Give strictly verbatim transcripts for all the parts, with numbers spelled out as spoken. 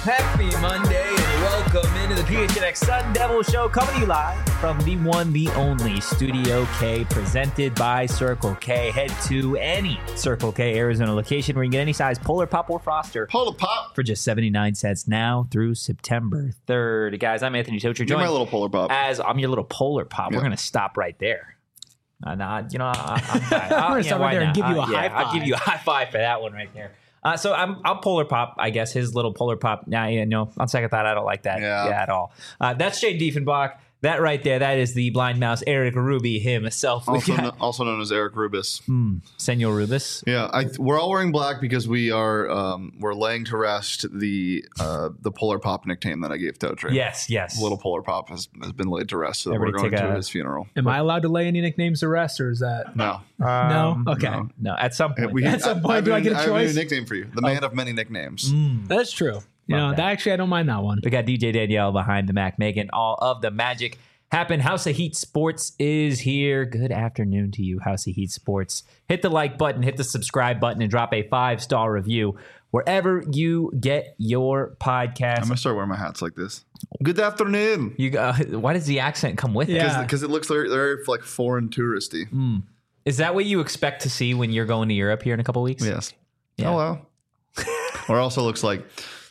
Happy Monday and welcome into the P H N X Sun Devil Show, coming to you live from the one, the only Studio K, presented by Circle K. Head to any Circle K Arizona location where you can get any size Polar Pop or Froster Polar Pop for just seventy-nine cents now through September third. Guys, I'm Anthony Tocher. You're my little Polar Pop. As I'm your little Polar Pop. Yeah. We're going to stop right there. Uh, nah, you know, I, I'm fine. I'm going to stop right there and give you a uh, high yeah, five. I'll give you a high five for that one right there. Uh, so I'm I'll Polar Pop, I guess, his little Polar Pop. Nah, yeah, no, on second thought, I don't like that Yeah. yeah, at all. Uh, that's Jay Diefenbach. That right there, that is the blind mouse, Eric Ruby himself. We Also, got- kno- also known as Eric Rubis. Mm, Senor Rubis. Yeah, I, we're all wearing black because we are um, we're laying to rest the uh, the Polar Pop nickname that I gave Totre. Yes, yes. Little Polar Pop has, has been laid to rest, so that we're Everybody going take to a- his funeral. Am I allowed to lay any nicknames to rest, or is that No, Um, no? Okay, no. No, at some point. We- At some point, I, do I have get a I have choice? new nickname for you, the man of many nicknames. Mm. that's true. You Love know, that. that. actually, I don't mind that one. We got D J Danielle behind the Mac, making all of the magic happen. House of Heat Sports is here. Good afternoon to you, House of Heat Sports. Hit the like button, hit the subscribe button, and drop a five-star review wherever you get your podcast. I'm gonna start wearing my hats like this. Good afternoon. You uh, why does the accent come with it? Yeah. Because it looks very, very like foreign touristy. Mm. Is that what you expect to see when you're going to Europe here in a couple weeks? Yes. Yeah. Hello. Or also looks like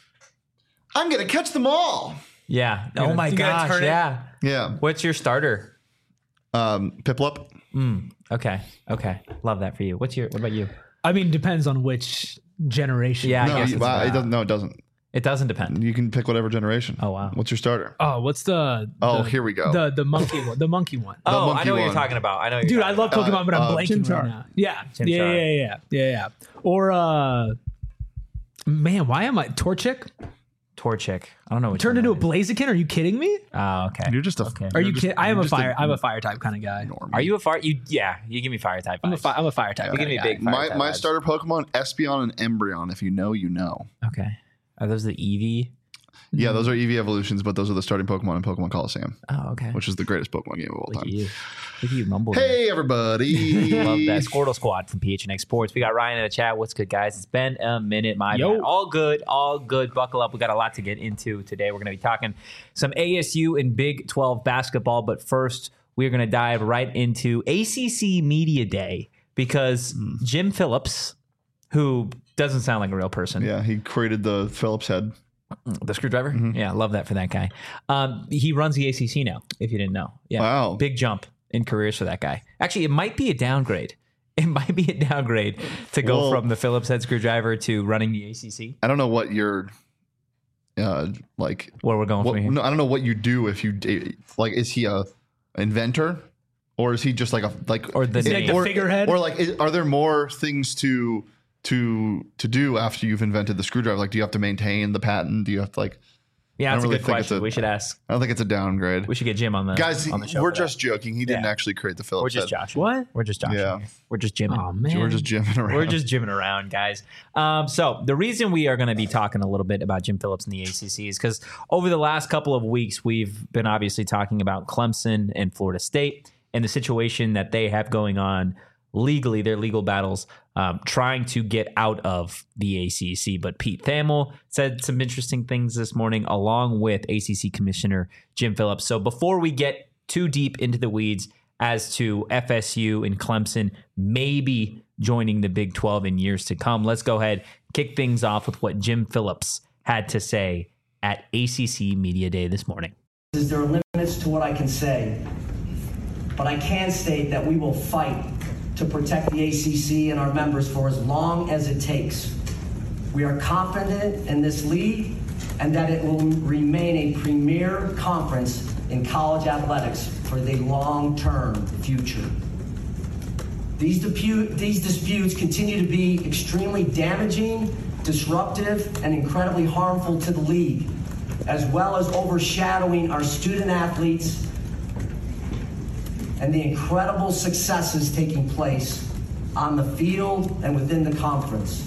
I'm gonna catch them all. Yeah. You Oh gonna- my you gonna gosh. turn it? Yeah. Yeah. What's your starter? Um, Piplup. Mm. Okay. Okay. Love that for you. What's your? What about you? I mean, depends on which generation. Yeah. I No, guess you, it's well, about- it doesn't. No, it doesn't. It doesn't depend. You can pick whatever generation. Oh wow. What's your starter? Oh, what's the? Oh, the- here we go. The the monkey one. The monkey one. Oh, I monkey know what you're one. talking about. I know. What Dude, you're I talking love about. Pokemon, but I'm uh, blanking Chimchar. right now. Yeah. Chimchar. yeah, yeah, yeah, yeah, yeah. Or uh, man, why am I Torchic? Torchic. I don't know. What Turned into a Blaziken? Are you kidding me? Oh, okay. You're just a. Okay. Are you're you just- kidding? I am you're a just fire. I'm a fire type kind of guy. normie. Are you a fire? You yeah. You give me fire type. I'm a vibes. fire. I'm a fire type. You give kinda me guy. big fire My type my vibes. starter Pokemon Espeon and Embryon. If you know, you know. Okay. Are those the Eevee? Yeah, those are Eevee evolutions, but those are the starting Pokemon in Pokemon Coliseum, Oh, okay. which is the greatest Pokemon game of all Look at time. you. Look at you mumble. Hey, everybody! Love that. Squirtle Squad from P H N X Sports. We got Ryan in the chat. What's good, guys? It's been a minute, my Yo. man. All good, all good. Buckle up. We got a lot to get into today. We're going to be talking some A S U and Big twelve basketball, but first, we're going to dive right into A C C Media Day because Jim Phillips, who doesn't sound like a real person, Yeah, he created the Phillips head. the screwdriver. Yeah, love that for that guy. Um, he runs the A C C now, if you didn't know. Yeah, Wow. big jump in careers for that guy. Actually, it might be a downgrade. It might be a downgrade to go Well- from the Phillips head screwdriver to running the A C C. I don't know what your, uh, like. Where we're going What, from here. no, I don't know what you do if you d- like. Is he a inventor, or is he just like a like Or the Is he like the or, figurehead? or like is, are there more things to to to do after you've invented the screwdriver? Like, do you have to maintain the patent? Do you have to like? Yeah, I that's don't a really good think it's question. a- we should ask. I don't think it's a downgrade. We should get Jim on the Guys, on the show. we're for that. just joking. He didn't Yeah. actually create the Phillips we're just head. joshing. What? We're just joshing. Yeah. We're just jimming. Oh man, We're just jimming around. We're just jimming around, guys. Um, so the reason we are going to be talking a little bit about Jim Phillips in the A C C is because over the last couple of weeks, we've been obviously talking about Clemson and Florida State and the situation that they have going on legally, their legal battles, um, trying to get out of the A C C. But Pete Thamel said some interesting things this morning, along with A C C Commissioner Jim Phillips. So before we get too deep into the weeds as to F S U and Clemson maybe joining the Big twelve in years to come, let's go ahead, kick things off with what Jim Phillips had to say at A C C Media Day this morning. There are limits to what I can say, but I can state that we will fight to protect the A C C and our members for as long as it takes. We are confident in this league and that it will remain a premier conference in college athletics for the long-term future. These, dispute, these disputes continue to be extremely damaging, disruptive, and incredibly harmful to the league, as well as overshadowing our student athletes and the incredible successes taking place on the field and within the conference.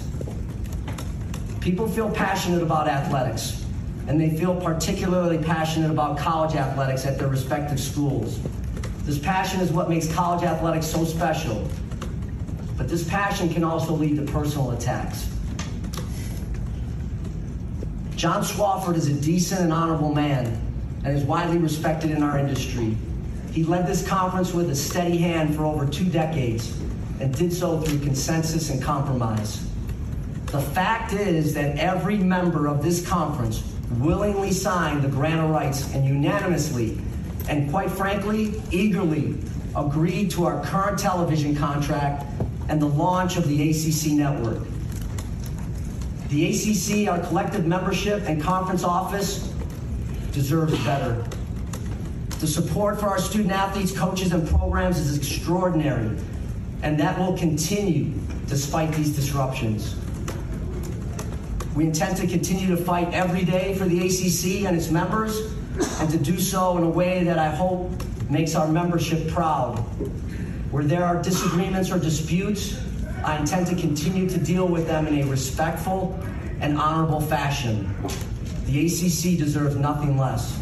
People feel passionate about athletics, and they feel particularly passionate about college athletics at their respective schools. This passion is what makes college athletics so special, but this passion can also lead to personal attacks. John Swofford is a decent and honorable man and is widely respected in our industry. He led this conference with a steady hand for over two decades and did so through consensus and compromise. The fact is that every member of this conference willingly signed the grant of rights and unanimously, and quite frankly, eagerly agreed to our current television contract and the launch of the A C C network. The A C C, our collective membership and conference office, deserves better. The support for our student athletes, coaches, and programs is extraordinary, and that will continue despite these disruptions. We intend to continue to fight every day for the A C C and its members, and to do so in a way that I hope makes our membership proud. Where there are disagreements or disputes, I intend to continue to deal with them in a respectful and honorable fashion. The A C C deserves nothing less.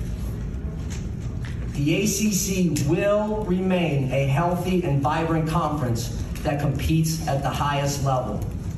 The A C C will remain a healthy and vibrant conference that competes at the highest level.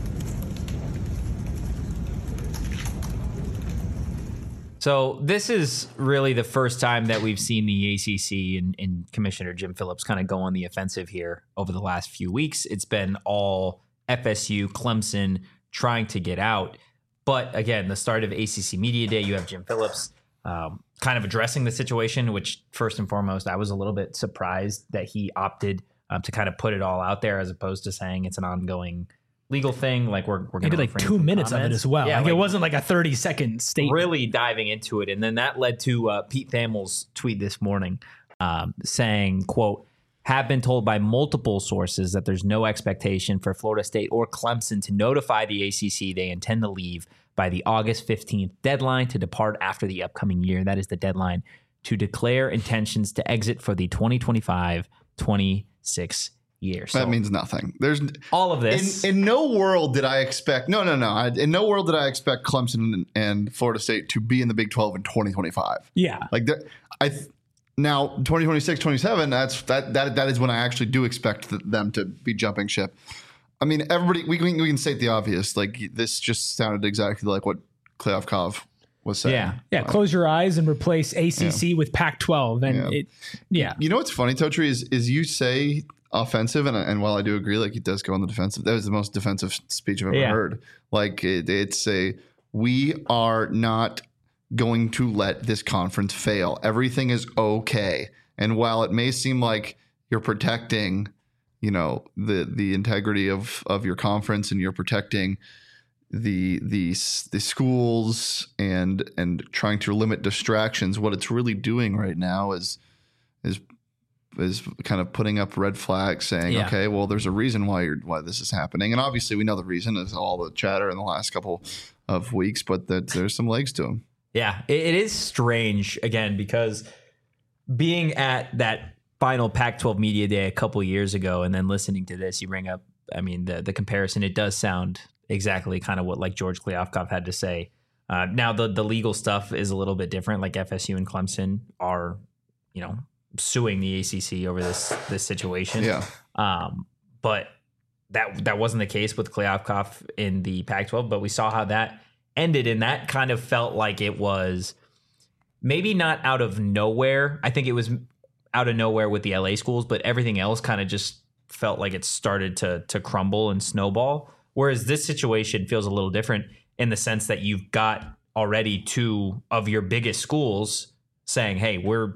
So this is really the first time that we've seen the A C C and, and Commissioner Jim Phillips kind of go on the offensive here over the last few weeks. It's been all F S U, Clemson trying to get out. But again, the start of A C C Media Day, you have Jim Phillips um, kind of addressing the situation, which first and foremost, I was a little bit surprised that he opted um, to kind of put it all out there as opposed to saying it's an ongoing legal thing. Like we're, we're going to like two minutes comments. of it as well. Yeah, like, like it wasn't like a thirty second statement. Really diving into it. And then that led to uh, Pete Thamel's tweet this morning um, saying, quote, have been told by multiple sources that there's no expectation for Florida State or Clemson to notify the A C C they intend to leave by the August fifteenth deadline to depart after the upcoming year. That is the deadline to declare intentions to exit for the twenty twenty-five twenty-six year. So that means nothing. There's all of this. In, in no world did I expect, no, no, no. I, in no world did I expect Clemson and, and Florida State to be in the Big twelve in twenty twenty-five. Yeah. Like I now twenty twenty-six, twenty-seven, that's that that that is when I actually do expect them to be jumping ship. I mean, everybody, we, we, we can state the obvious. Like this just sounded exactly like what Kliavkoff was saying. Yeah. Yeah. Like, close your eyes and replace A C C yeah. with Pac twelve. And yeah. it, yeah. You know what's funny, Totri, is, is you say offensive, and and while I do agree, like he does go on the defensive, that was the most defensive speech I've ever yeah. heard. Like it, it's a, we are not going to let this conference fail. Everything is okay. And while it may seem like you're protecting, you know, the the integrity of of your conference, and you're protecting the the the schools and and trying to limit distractions, what it's really doing right now is is is kind of putting up red flags saying, yeah. okay, well, there's a reason why you're why this is happening. And obviously we know the reason is all the chatter in the last couple of weeks, but that there's some legs to them. Yeah, it, it is strange, again, because being at that final Pac twelve Media Day a couple years ago and then listening to this, you bring up, I mean, the the comparison, it does sound exactly kind of what like George Kliavkoff had to say. Uh, now, the, the legal stuff is a little bit different. Like F S U and Clemson are, you know, suing the A C C over this this situation. Yeah. Um, but that that wasn't the case with Kliavkoff in the Pac twelve, but we saw how that ended, and that kind of felt like it was maybe not out of nowhere. I think it was out of nowhere with the L A schools, but everything else kind of just felt like it started to to crumble and snowball. Whereas this situation feels a little different in the sense that you've got already two of your biggest schools saying, hey, we're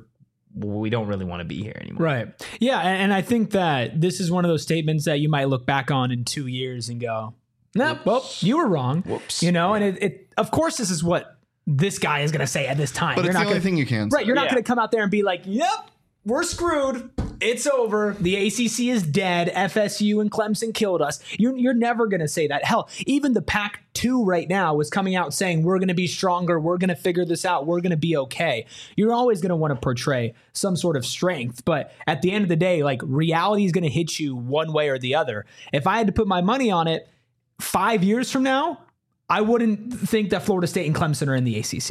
we don't really want to be here anymore. Right. Yeah. And I think that this is one of those statements that you might look back on in two years and go, nah, well, you were wrong. Whoops. You know, yeah. and it, it, of course, this is what this guy is going to say at this time. But you're it's not the only gonna, thing you can say. Right. You're not yeah. going to come out there and be like, yep, we're screwed. It's over. The A C C is dead. F S U and Clemson killed us. You're, you're never going to say that. Hell, even the Pac two right now was coming out saying, we're going to be stronger. We're going to figure this out. We're going to be okay. You're always going to want to portray some sort of strength. But at the end of the day, like reality is going to hit you one way or the other. If I had to put my money on it, five years from now, I wouldn't think that Florida State and Clemson are in the A C C.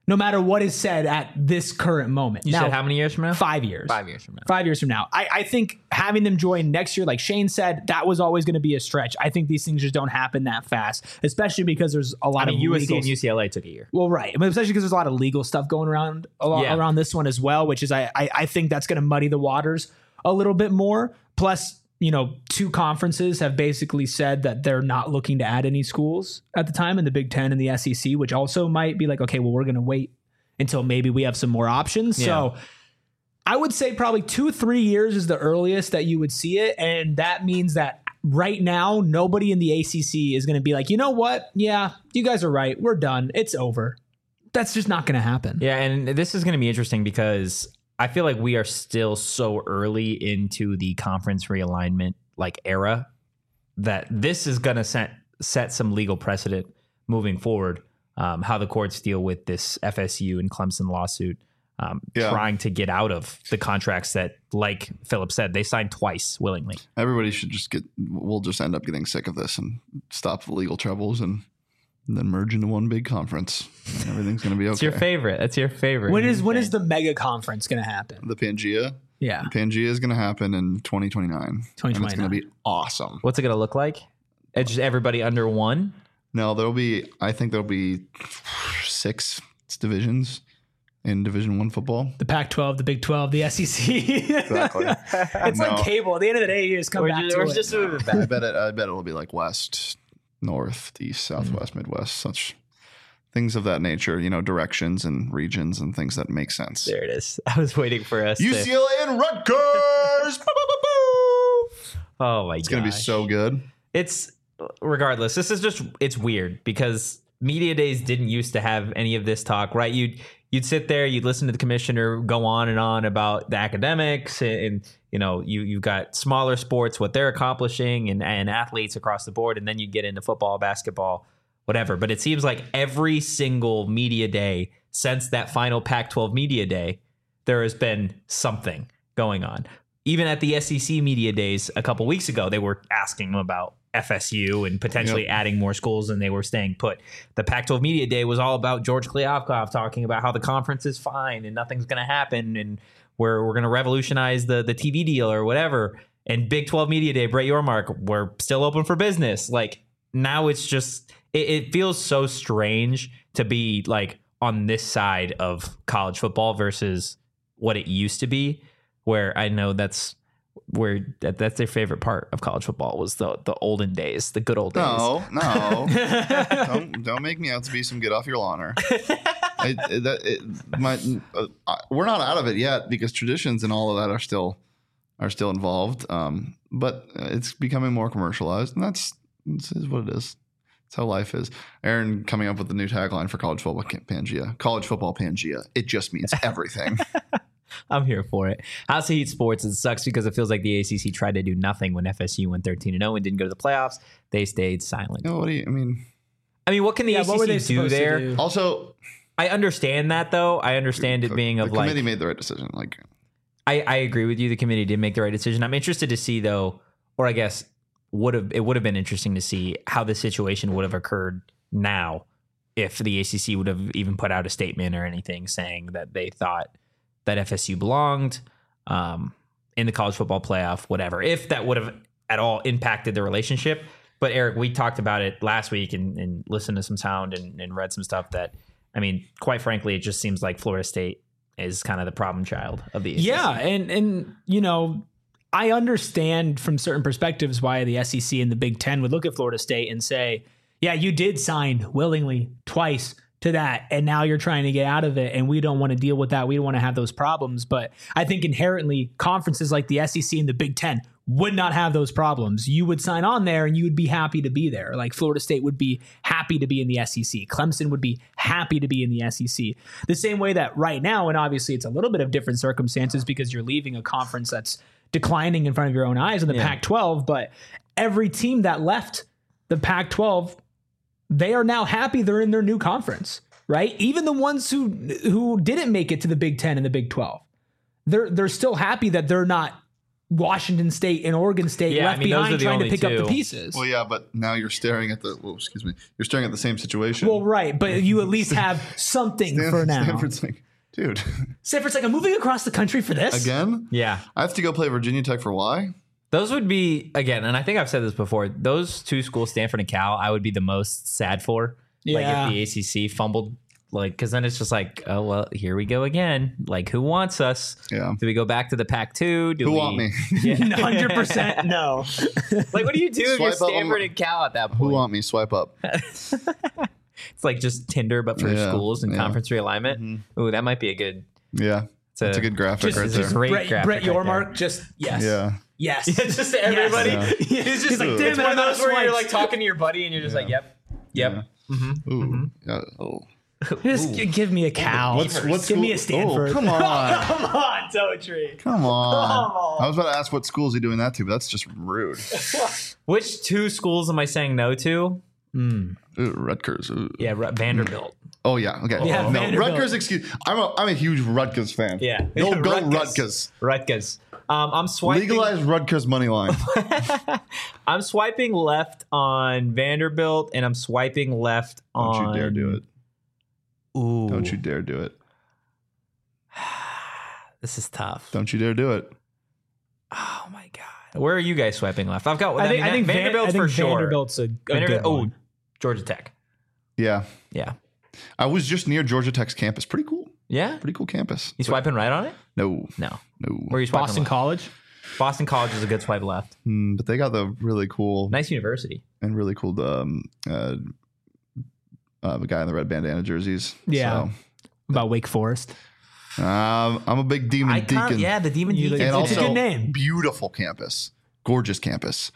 no matter what is said at this current moment. You now, said how many years from now? Five years. Five years from now. Five years from now. I, I think having them join next year, like Shane said, that was always going to be a stretch. I think these things just don't happen that fast, especially because there's a lot I mean, of U S C legal and U C L A took a year. Well, right. But especially because there's a lot of legal stuff going around a lot, Yeah. around this one as well, which is I, I, I think that's going to muddy the waters a little bit more. Plus, you know, two conferences have basically said that they're not looking to add any schools at the time in the Big Ten and the S E C, which also might be like, okay, well, we're going to wait until maybe we have some more options. Yeah. So I would say probably two, three years is the earliest that you would see it. And that means that right now, nobody in the A C C is going to be like, you know what? Yeah, you guys are right. We're done. It's over. That's just not going to happen. Yeah, and this is going to be interesting because I feel like we are still so early into the conference realignment like era that this is going to set set some legal precedent moving forward. Um, how the courts deal with this F S U and Clemson lawsuit, um, Yeah. trying to get out of the contracts that, like Philip said, they signed twice willingly. Everybody should just get. We'll just end up getting sick of this and stop the legal troubles and, and then merge into one big conference. And everything's going to be okay. It's your favorite. That's your favorite. When is when is the mega conference going to happen? The Pangea. Yeah. Pangea is going to happen in twenty twenty-nine. And it's going to twenty twenty-nine. be awesome. What's it going to look like? It's just everybody under one. No, there'll be. I think there'll be six divisions in Division One football. The Pac twelve, the Big twelve, the S E C. Exactly. It's No. like cable. At the end of the day, you just come We're back just, to we're it. just moving I back. bet it. I bet it'll be like West, North, East, Southwest, Midwest, such things of that nature. You know, directions and regions and things that make sense. There it is. I was waiting for us. U to, C L A and Rutgers. Boo, boo, boo, boo. oh my god, It's gonna be so good. It's regardless. This is just it's weird because media days didn't used to have any of this talk, right? You'd you'd sit there, you'd listen to the commissioner go on and on about the academics, and, and you know you you've got smaller sports, what they're accomplishing, and and athletes across the board, and then you get into football, basketball, whatever. But it seems like every single media day since that final Pac twelve media day, there has been something going on. Even at the S E C media days a couple weeks ago, they were asking them about F S U and potentially Yep. adding more schools, and they were staying put. The Pac twelve media day was all about George Kliavkoff talking about how the conference is fine and nothing's going to happen, and we're we're going to revolutionize the the T V deal or whatever. And Big twelve media day, Brett Yormark, we're still open for business. Like now, it's just it, it feels so strange to be like on this side of college football versus what it used to be. Where I know that's where that, that's their favorite part of college football was the the olden days, the good old days. No, no, don't don't make me out to be some get off your lawner. I, that, it, my, uh, I- we're not out of it yet because traditions and all of that are still are still involved. Um, but it's becoming more commercialized, and that's this is what it is. It's how life is. Aaron coming up with the new tagline for college football Pangea. College football Pangea. It just means everything. I'm here for it. House of Heat Sports, it sucks because it feels like the A C C tried to do nothing when F S U went thirteen and oh and didn't go to the playoffs. They stayed silent. You know, what do you, I mean, I mean, what can the Yeah, A C C what were they do supposed to there? do? also I understand that, though. I understand it being the of committee like made the right decision. Like, I, I agree with you. The committee did make the right decision. I'm interested to see, though, or I guess would have it would have been interesting to see how the situation would have occurred now if the A C C would have even put out a statement or anything saying that they thought that F S U belonged um, in the college football playoff, whatever. If that would have at all impacted the relationship. But Eric, we talked about it last week and, and listened to some sound and, and read some stuff that, I mean, quite frankly, it just seems like Florida State is kind of the problem child of the A C C. Yeah, and and you know, I understand from certain perspectives why the S E C and the Big Ten would look at Florida State and say, yeah, you did sign willingly twice to that, and now you're trying to get out of it, and we don't want to deal with that. We don't want to have those problems. But I think inherently conferences like the S E C and the Big Ten would not have those problems. You would sign on there and you would be happy to be there. Like Florida State would be happy to be in the S E C. Clemson would be happy to be in the S E C. The same way that right now, and obviously it's a little bit of different circumstances because you're leaving a conference that's declining in front of your own eyes in the Yeah. Pac twelve, but every team that left the Pac twelve, they are now happy they're in their new conference, right? Even the ones who who didn't make it to the Big Ten and the Big twelve, they're they're still happy that they're not Washington State and Oregon State Yeah, I left mean, those are behind the trying to only pick up the two. pieces. Well, yeah, but now you're staring at the. Well, excuse me. You're staring at the same situation. Well, right, but you at least have something Stan- for now. Stanford's like, dude, Stanford's like, I'm moving across the country for this. again? Yeah. I have to go play Virginia Tech for why? Those would be, again, and I think I've said this before, those two schools, Stanford and Cal, I would be the most sad for. Like Yeah. if the A C C fumbled, like, because then it's just like, oh, well, here we go again. Like, who wants us? Yeah. Do we go back to the Pac two? Do Who we want me? one hundred percent no. Like, what do you do if you're Swipe up on Stanford my- and Cal at that point? Who want me? Swipe up. It's like just Tinder, but for Yeah, schools and yeah. conference realignment. Ooh, that might be a good. Yeah. It's a, That's a good graphic Just- right it's a there. great Brett, graphic Brett right Yormark, there. just yes. Yeah. Yes. Just to everybody. Yeah. He's just like, Ugh. damn It's it, one I'm of out of those where you're swipes. like talking to your buddy and you're just like, yep, yep. Ooh. Yeah. Oh. Just g- give me a cow. What's what's give school? me a Stanford. Oh, come on. Come on, Toetry. Come on. Come on. I was about to ask what school is he doing that to, but that's just rude. Which two schools am I saying no to? Ooh, Rutgers. Ooh. Yeah, Ru- Vanderbilt. Oh yeah. Okay. Yeah, no, Vanderbilt. Rutgers. Excuse. I'm a I'm a huge Rutgers fan. Yeah. Go go Rutgers. Rutgers. Rutgers. Um, I'm swiping. Legalize Rutgers money line. I'm swiping left on Vanderbilt, and I'm swiping left Don't on. you dare do it. Ooh, Don't you dare do it. This is tough. Don't you dare do it. Oh my god, where are you guys swiping left? I've got. I think, mean, I think Van- Vanderbilt's I think for sure. Vanderbilt's a, a Vanderbilt. good Oh, one. Georgia Tech. Yeah. Yeah, I was just near Georgia Tech's campus. Pretty cool. yeah. Pretty cool campus. You swiping right on it? No. No. No. Where are you swiping? Boston left? College. Boston College is a good swipe left. Mm, but they got the really cool Nice university. and really cool um uh, uh the guy in the red bandana jerseys. Yeah. So, About Wake Forest. um, I'm a big Demon I Deacon. can't. Yeah, the Demon You- Deacon. and It's a also good name. beautiful campus, gorgeous campus.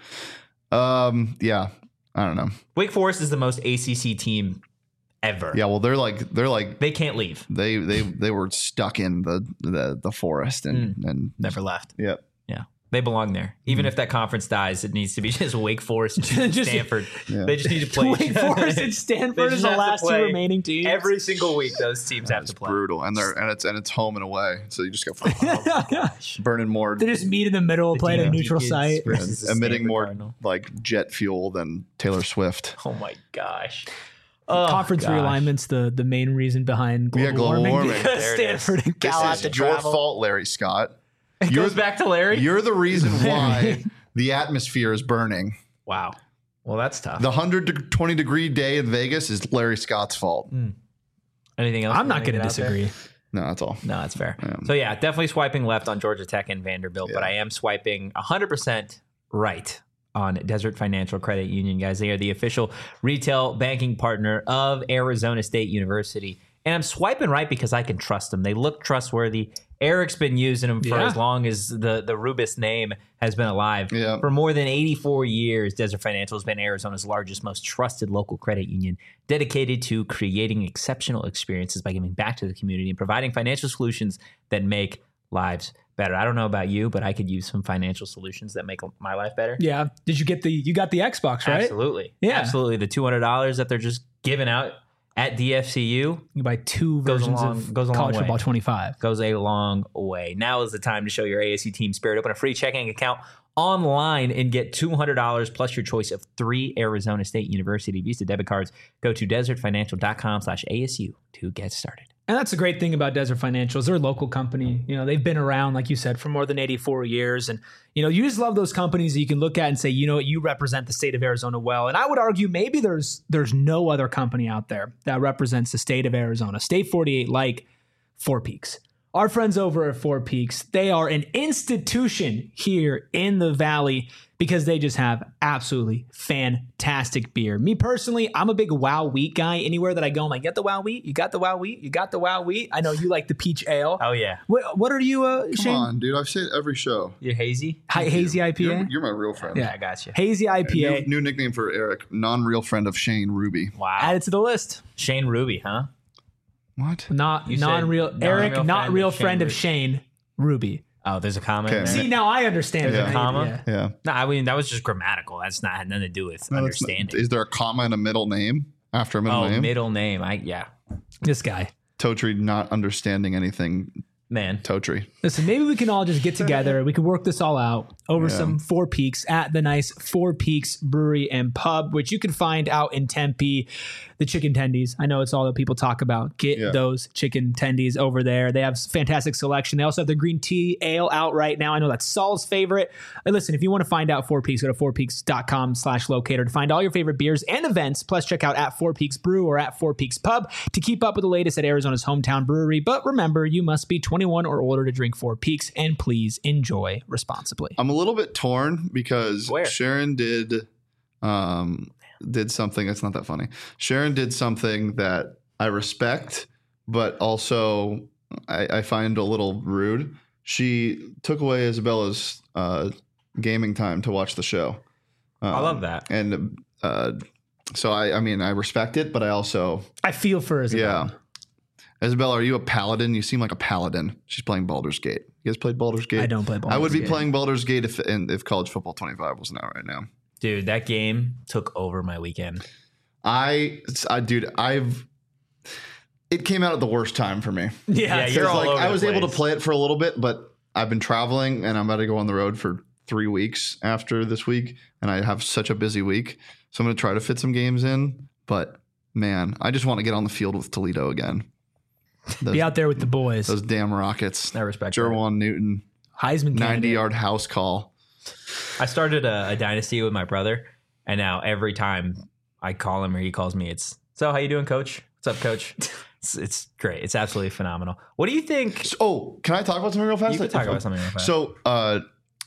Um, yeah, I don't know. Wake Forest is the most A C C team ever. Yeah, well, they're like they're like They can't leave. they they they were stuck in the the the forest and Mm. and Never left. yeah. Yeah. They belong there. Even if that conference dies, it needs to be just Wake Forest and Just- Stanford. Yeah. They just need to play. Wake Forest and Stanford They is just the have to last two play remaining teams. Every single week, those teams have It's to play. brutal, and they're and it's and it's home and away, so you just got Gosh. burning more, They just meet in the middle, play at a Demon neutral Deacons site. versus the emitting Stanford more Cardinal. like jet fuel than Taylor Swift. Oh my gosh. Oh, Conference gosh. realignment's the, the main reason behind global, Yeah, global warming, warming. because There it is. Stanford and Cal have This to is your travel. fault, Larry Scott. It You're goes back to Larry. You're the reason why the atmosphere is burning. Wow. Well, that's tough. The one hundred twenty degree day in Vegas is Larry Scott's fault. Anything else? I'm we not wanna going to get out there? disagree. No, that's all. No, that's fair. Yeah. So yeah, definitely swiping left on Georgia Tech and Vanderbilt, but Yeah. I am swiping one hundred percent right on Desert Financial Credit Union, guys. They are the official retail banking partner of Arizona State University. And I'm swiping right because I can trust them. They look trustworthy. Eric's been using them for Yeah. as long as the, the Rubis name has been alive. Yeah. For more than eighty-four years, Desert Financial has been Arizona's largest, most trusted local credit union, dedicated to creating exceptional experiences by giving back to the community and providing financial solutions that make lives better. I don't know about you, but I could use some financial solutions that make my life better. Yeah. Did you get the, you got the Xbox, right? Absolutely. Yeah. Absolutely. The two hundred dollars that they're just giving out at D F C U You buy two Goes a versions long- of goes a long College way. Football twenty-five. goes a long way. Now is the time to show your A S U team spirit. Open a free checking account online and get two hundred dollars plus your choice of three Arizona State University Visa debit cards. Go to desertfinancial.com slash ASU to get started. And that's the great thing about Desert Financial is they're a local company. You know, they've been around, like you said, for more than eighty-four years. And, you know, you just love those companies that you can look at and say, you know what, you represent the state of Arizona well. And I would argue maybe there's there's no other company out there that represents the state of Arizona, State forty-eight, like Four Peaks. Our friends over at Four Peaks, they are an institution here in the Valley because they just have absolutely fantastic beer. Me personally, I'm a big Wow Wheat guy. Anywhere that I go, I'm like, get the Wow Wheat? You got the Wow Wheat? You got the Wow Wheat? I know you like the peach ale. Oh, yeah. What, what are you, uh, Come Shane? on, dude. I've said it every show. You hazy? Hi, hazy I P A? You're, you're my real friend. Yeah. I got you. Hazy I P A. New, new nickname for Eric, non-real friend of Shane Ruby. Wow. Add it to the list. Shane Ruby, huh? What? Not You said non-real. non-real Eric, friend not of real Shane friend of Ruby. Shane Ruby. Oh, there's a comment. Okay. there? See, now I understand. Yeah. the Comma? idea. Yeah. No, I mean, that was just grammatical. That's not had nothing to do with No, that's not- understanding. is there a comma and a middle name after a middle Oh, name? middle name. I yeah. This guy. Totri not understanding anything Man. Totri. Listen, maybe we can all just get together. We can work this all out over Yeah. some Four Peaks at the nice Four Peaks Brewery and Pub, which you can find out in Tempe. The chicken tendies. I know it's all that people talk about. Get Yeah. those chicken tendies over there. They have fantastic selection. They also have the green tea ale out right now. I know that's Saul's favorite. And listen, if you want to find out Four Peaks, go to four peaks dot com slash locator to find all your favorite beers and events. Plus, check out at Four Peaks Brew or at Four Peaks Pub to keep up with the latest at Arizona's hometown brewery. But remember, you must be twenty-one or older to drink Four Peaks, and please enjoy responsibly. I'm a little bit torn because Where? Sharon did um did something that's not that funny. Sharon did something that I respect, but also I, I find a little rude. She took away Isabella's uh, gaming time to watch the show. Um, I love that. And uh, so I, I mean, I respect it, but I also, I feel for Isabel. yeah. Isabella, are you a paladin? You seem like a paladin. She's playing Baldur's Gate. You guys played Baldur's Gate? I don't play Baldur's I would be Gate. playing Baldur's Gate if and if College Football twenty-five wasn't out right now. Dude, that game took over my weekend. I, I, dude, I've. It came out at the worst time for me. Yeah, Yeah, it's you're It's all like over I the was able to place. play it for a little bit, but I've been traveling and I'm about to go on the road for three weeks after this week, and I have such a busy week, so I'm going to try to fit some games in. But man, I just want to get on the field with Toledo again. Those, be out there with the boys. those damn Rockets. I respect that. Jerwan Newton, Heisman ninety candidate. yard house call. I started a, a dynasty with my brother, and now every time I call him or he calls me, it's, so how you doing, coach? What's up, coach? It's, it's great. It's absolutely phenomenal. What do you think? So, oh, can I talk about something real fast? You can talk about something real fast. So, uh,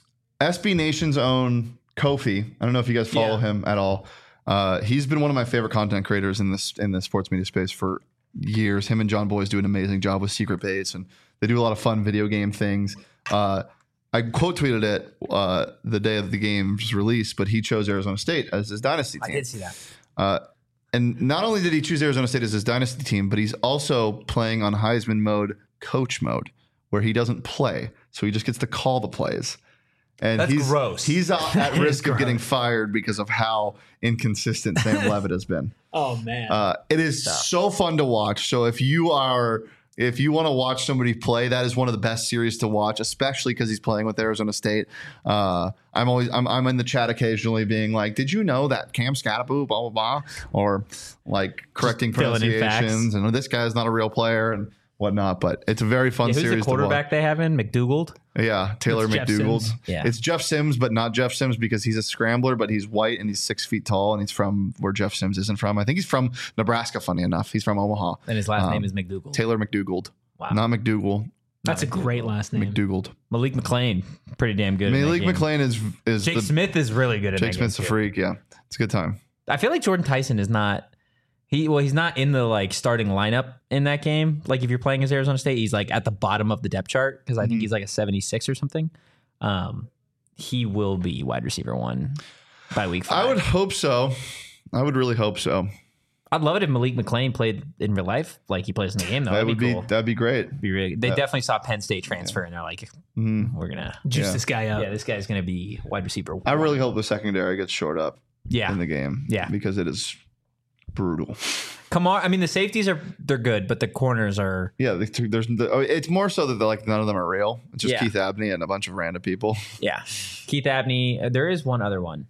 S B Nation's own Kofi. I don't know if you guys follow Yeah. him at all. Uh, he's been one of my favorite content creators in this in the sports media space for years. Him and John Boyce do an amazing job with Secret Base, and they do a lot of fun video game things. Uh, I quote tweeted it uh, the day of the game's release, but he chose Arizona State as his dynasty I team. did see that. Uh, and not only did he choose Arizona State as his dynasty team, but he's also playing on Heisman mode, coach mode, where he doesn't play, so he just gets to call the plays. And That's he's gross. He's at That is risk of getting gross. fired because of how inconsistent Sam Levitt has been. Oh man. Uh, it is so fun to watch. So if you are, if you want to watch somebody play, that is one of the best series to watch, especially because he's playing with Arizona State. Uh, I'm always, I'm, I'm in the chat occasionally being like, did you know that Cam Scatteraboo, blah, blah, blah, or like correcting filling in facts. pronunciations and this guy's not a real player and whatnot. But it's a very fun Yeah, who's series the quarterback they have in? McDougal? to watch. Yeah, Taylor It's Jeff McDougal. Sims. Yeah. It's Jeff Sims, but not Jeff Sims because he's a scrambler, but he's white and he's six feet tall and he's from where Jeff Sims isn't from. I think he's from Nebraska, funny enough. He's from Omaha. And his last Um, name is McDougal. Taylor McDougal. Wow. Not McDougal. That's a great last name. McDougal. Malik McLean, pretty damn good. in that Malik game. McLean is is Jake the Smith is really good at Jake that Smith's a game, too. freak. Yeah, it's a good time. I feel like Jordan Tyson is not. He well, he's not in the like starting lineup in that game. Like if you're playing as Arizona State, he's like at the bottom of the depth chart because I think Mhm. he's like a seventy-six or something. Um, he will be wide receiver one by week five. I would hope so. I would really hope so. I'd love it if Malik McLean played in real life, like he plays in the game. Though that that'd would be be cool. that'd be great. Be really. They Yeah. definitely saw Penn State transfer, and they're like, Mhm. we're gonna. Juice Yeah. this guy up. Yeah, this guy's gonna be wide receiver. I one. really hope the secondary gets short up Yeah, in the game. Yeah. because it is brutal. Kamar. I mean, the safeties are they're good, but the corners are. Yeah, the, there's the, oh, it's more so that they're like none of them are real. It's just Yeah. Keith Abney and a bunch of random people. Yeah, Keith Abney. uh, There is one other one.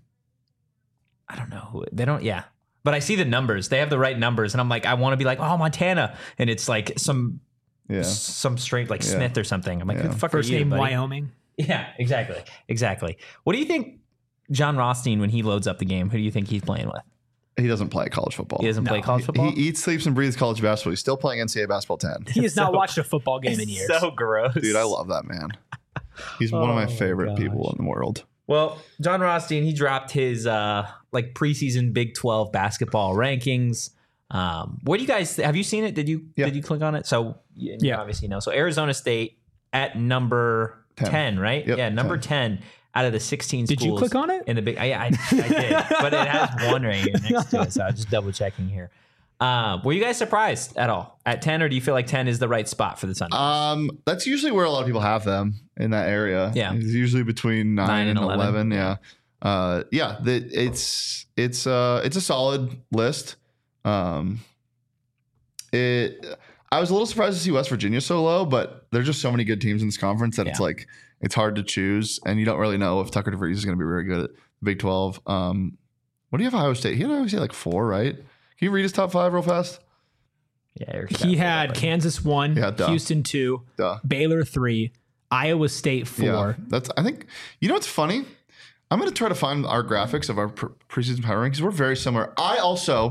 I don't know who they don't. Yeah, but I see the numbers. They have the right numbers, and I'm like, I want to be like, oh, Montana, and it's like some Yeah, some straight like Yeah. Smith or something. I'm like, who Yeah. the fuck First are you, name buddy? Wyoming. Yeah, exactly, exactly. What do you think, John Rothstein, when he loads up the game? Who do you think he's playing with? he doesn't play college football. He doesn't play No. college football. He eats, sleeps, and breathes college basketball. He's still playing N C double A basketball ten. He has not So- watched a football game in years. So gross, Dude, I love that man. He's one of my Oh, favorite gosh. people in the world. Well, John Rothstein, he dropped his uh like preseason Big twelve basketball rankings. Um, what do you guys have you seen it? Did you Yeah. did you click on it? So you, you Yeah. obviously know. So Arizona State at number ten, ten. right? Yep, yeah, number ten. Out of the sixteen Did you schools. click on it? In the big I, I, I did, but it has one right here next to it, so I'm just double checking here. Uh, were you guys surprised at all at ten, or do you feel like ten is the right spot for the Sun? Um, that's usually where a lot of people have them in that area. Yeah. it's usually between nine, Nine and and eleven. eleven. Yeah, uh, yeah. The, it's it's uh it's a solid list. Um, it I was a little surprised to see West Virginia so low, but there's just so many good teams in this conference that it's Yeah. like it's hard to choose, and you don't really know if Tucker DeVries is going to be very good at the Big twelve. Um, what do you have Ohio State? He had Ohio State like four, right? Can you read his top five real fast? Yeah, Eric's got He it. had Kansas one, Yeah, duh. Houston two, Duh. Baylor three, Iowa State four. Yeah, that's. I think you know what's funny. I'm going to try to find our graphics of our pre- preseason power rankings. We're very similar. I also,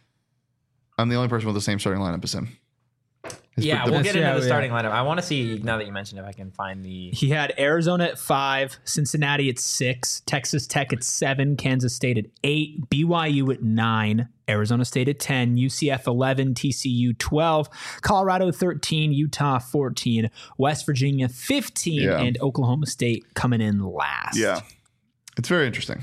I'm the only person with the same starting lineup as him. His- Yeah, the- we'll That's- get into yeah, the yeah. starting lineup. I want to see, now that you mentioned, if I can find the. He had Arizona at five, Cincinnati at six, Texas Tech at seven, Kansas State at eight, B Y U at nine, Arizona State at ten, U C F eleven, T C U twelve, Colorado thirteen, Utah fourteen, West Virginia fifteen, Yeah. and Oklahoma State coming in last. yeah, it's very interesting.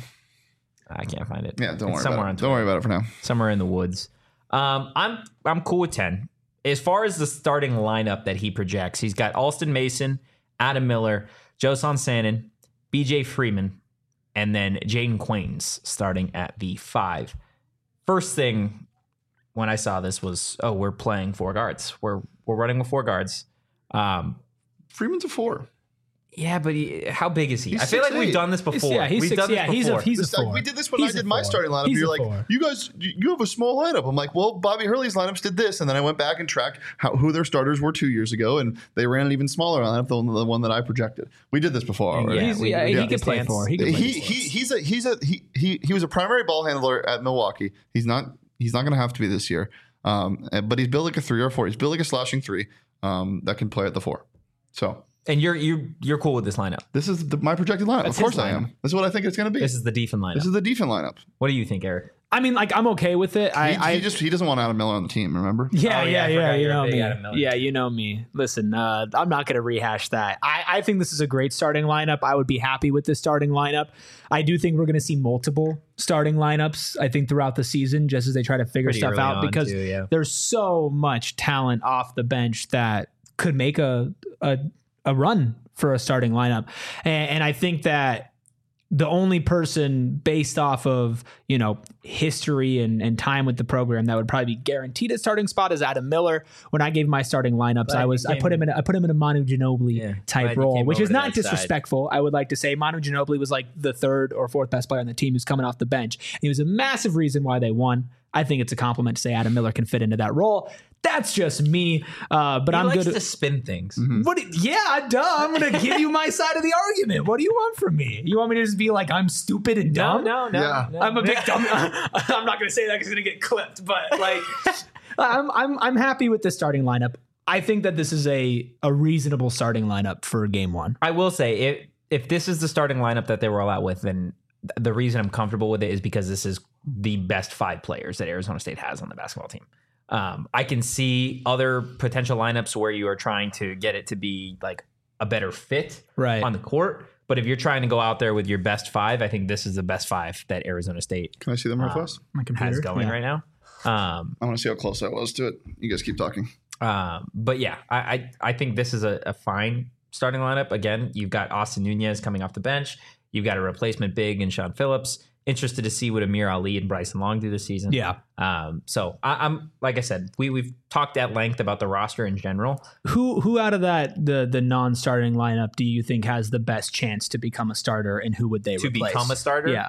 I can't find it. Yeah, don't It's worry somewhere about on it. Don't worry about it for now. somewhere in the woods. Um, I'm I'm cool with ten. As far as the starting lineup that he projects, he's got Alston Mason, Adam Miller, Josan Sannon, B J Freeman, and then Jaden Quains starting at the five. First thing when I saw this was, oh, we're playing four guards. We're we're running with four guards. Um, Freeman's a four. yeah, but he, how big is he? He's I feel like six we've eight. dwhen this before. yeah, he's we've six- done this yeah, he's a- before. he's a This- four. we did this when He's I a did my four. starting lineup. He's You're a like, four. you guys, you you have a small lineup. I'm like, well, Bobby Hurley's lineups did this, and then I went back and tracked how, who their starters were two years ago, and they ran an even smaller lineup than the one that I projected. We did this before already. Yeah, He's, we- yeah, we he did can this play dance. four. He can play He, four. he he's a he's a he he he was a primary ball handler at Milwaukee. He's not he's not going to have to be this year. Um, but he's built like a three or four. He's built like a slashing three. Um, that can play at the four. So And you're you you're cool with this lineup. this is the, my projected lineup. That's of course his I am. lineup. This is what I think it's going to be. This is the Defen lineup. This is the defense lineup. What do you think, Eric? I mean, like, I'm okay with it. I, He, I he just he doesn't want Adam Miller on the team. Remember? Yeah, Oh, yeah, yeah, I yeah. forgot You you're a know big me. Adam Miller Yeah, fan. you know me. Listen, uh, I'm not going to rehash that. I, I think this is a great starting lineup. I would be happy with this starting lineup. I do think we're going to see multiple starting lineups, I think, throughout the season, just as they try to figure Pretty stuff early out, on, because too, yeah. there's so much talent off the bench that could make a a, a run for a starting lineup. And, and I think that the only person based off of, you know, history and, and time with the program that would probably be guaranteed a starting spot is Adam Miller. When I gave my starting lineups, Glad I you was I came- put him in a, I put him in a Manu Ginobili Yeah, glad type you role, came which over is to not that side. disrespectful. I would like to say Manu Ginobili was like the third or fourth best player on the team who's coming off the bench. He was a massive reason why they won. I think it's a compliment to say Adam Miller can fit into that role. That's just me, uh, but He I'm likes good. to spin things. What? do- Yeah, duh. I'm gonna give you my side of the argument. What do you want from me? You want me to just be like I'm stupid and No, dumb? no, no. Yeah. no. I'm a big dumb. I'm not gonna say that because it's gonna get clipped. But like, I'm I'm I'm happy with the starting lineup. I think that this is a a reasonable starting lineup for game one. I will say, if if this is the starting lineup that they roll out with, then th- the reason I'm comfortable with it is because this is the best five players that Arizona State has on the basketball team. Um, I can see other potential lineups where you are trying to get it to be like a better fit Right. on the court. But if you're trying to go out there with your best five, I think this is the best five that Arizona State Can I see them real fast? My computer has going yeah. right now. Um, I want to see how close I was to it. You guys keep talking. Um, but yeah, I, I I think this is a, a fine starting lineup. Again, you've got Austin Nunez coming off the bench. You've got a replacement big in Sean Phillips. Interested to see what Amir Ali and Bryson Long do this season. Yeah. Um, so I, I'm like I said, we we've talked at length about the roster in general. Who who out of that the the non-starting lineup do you think has the best chance to become a starter, and who would they To replace? become a starter? Yeah.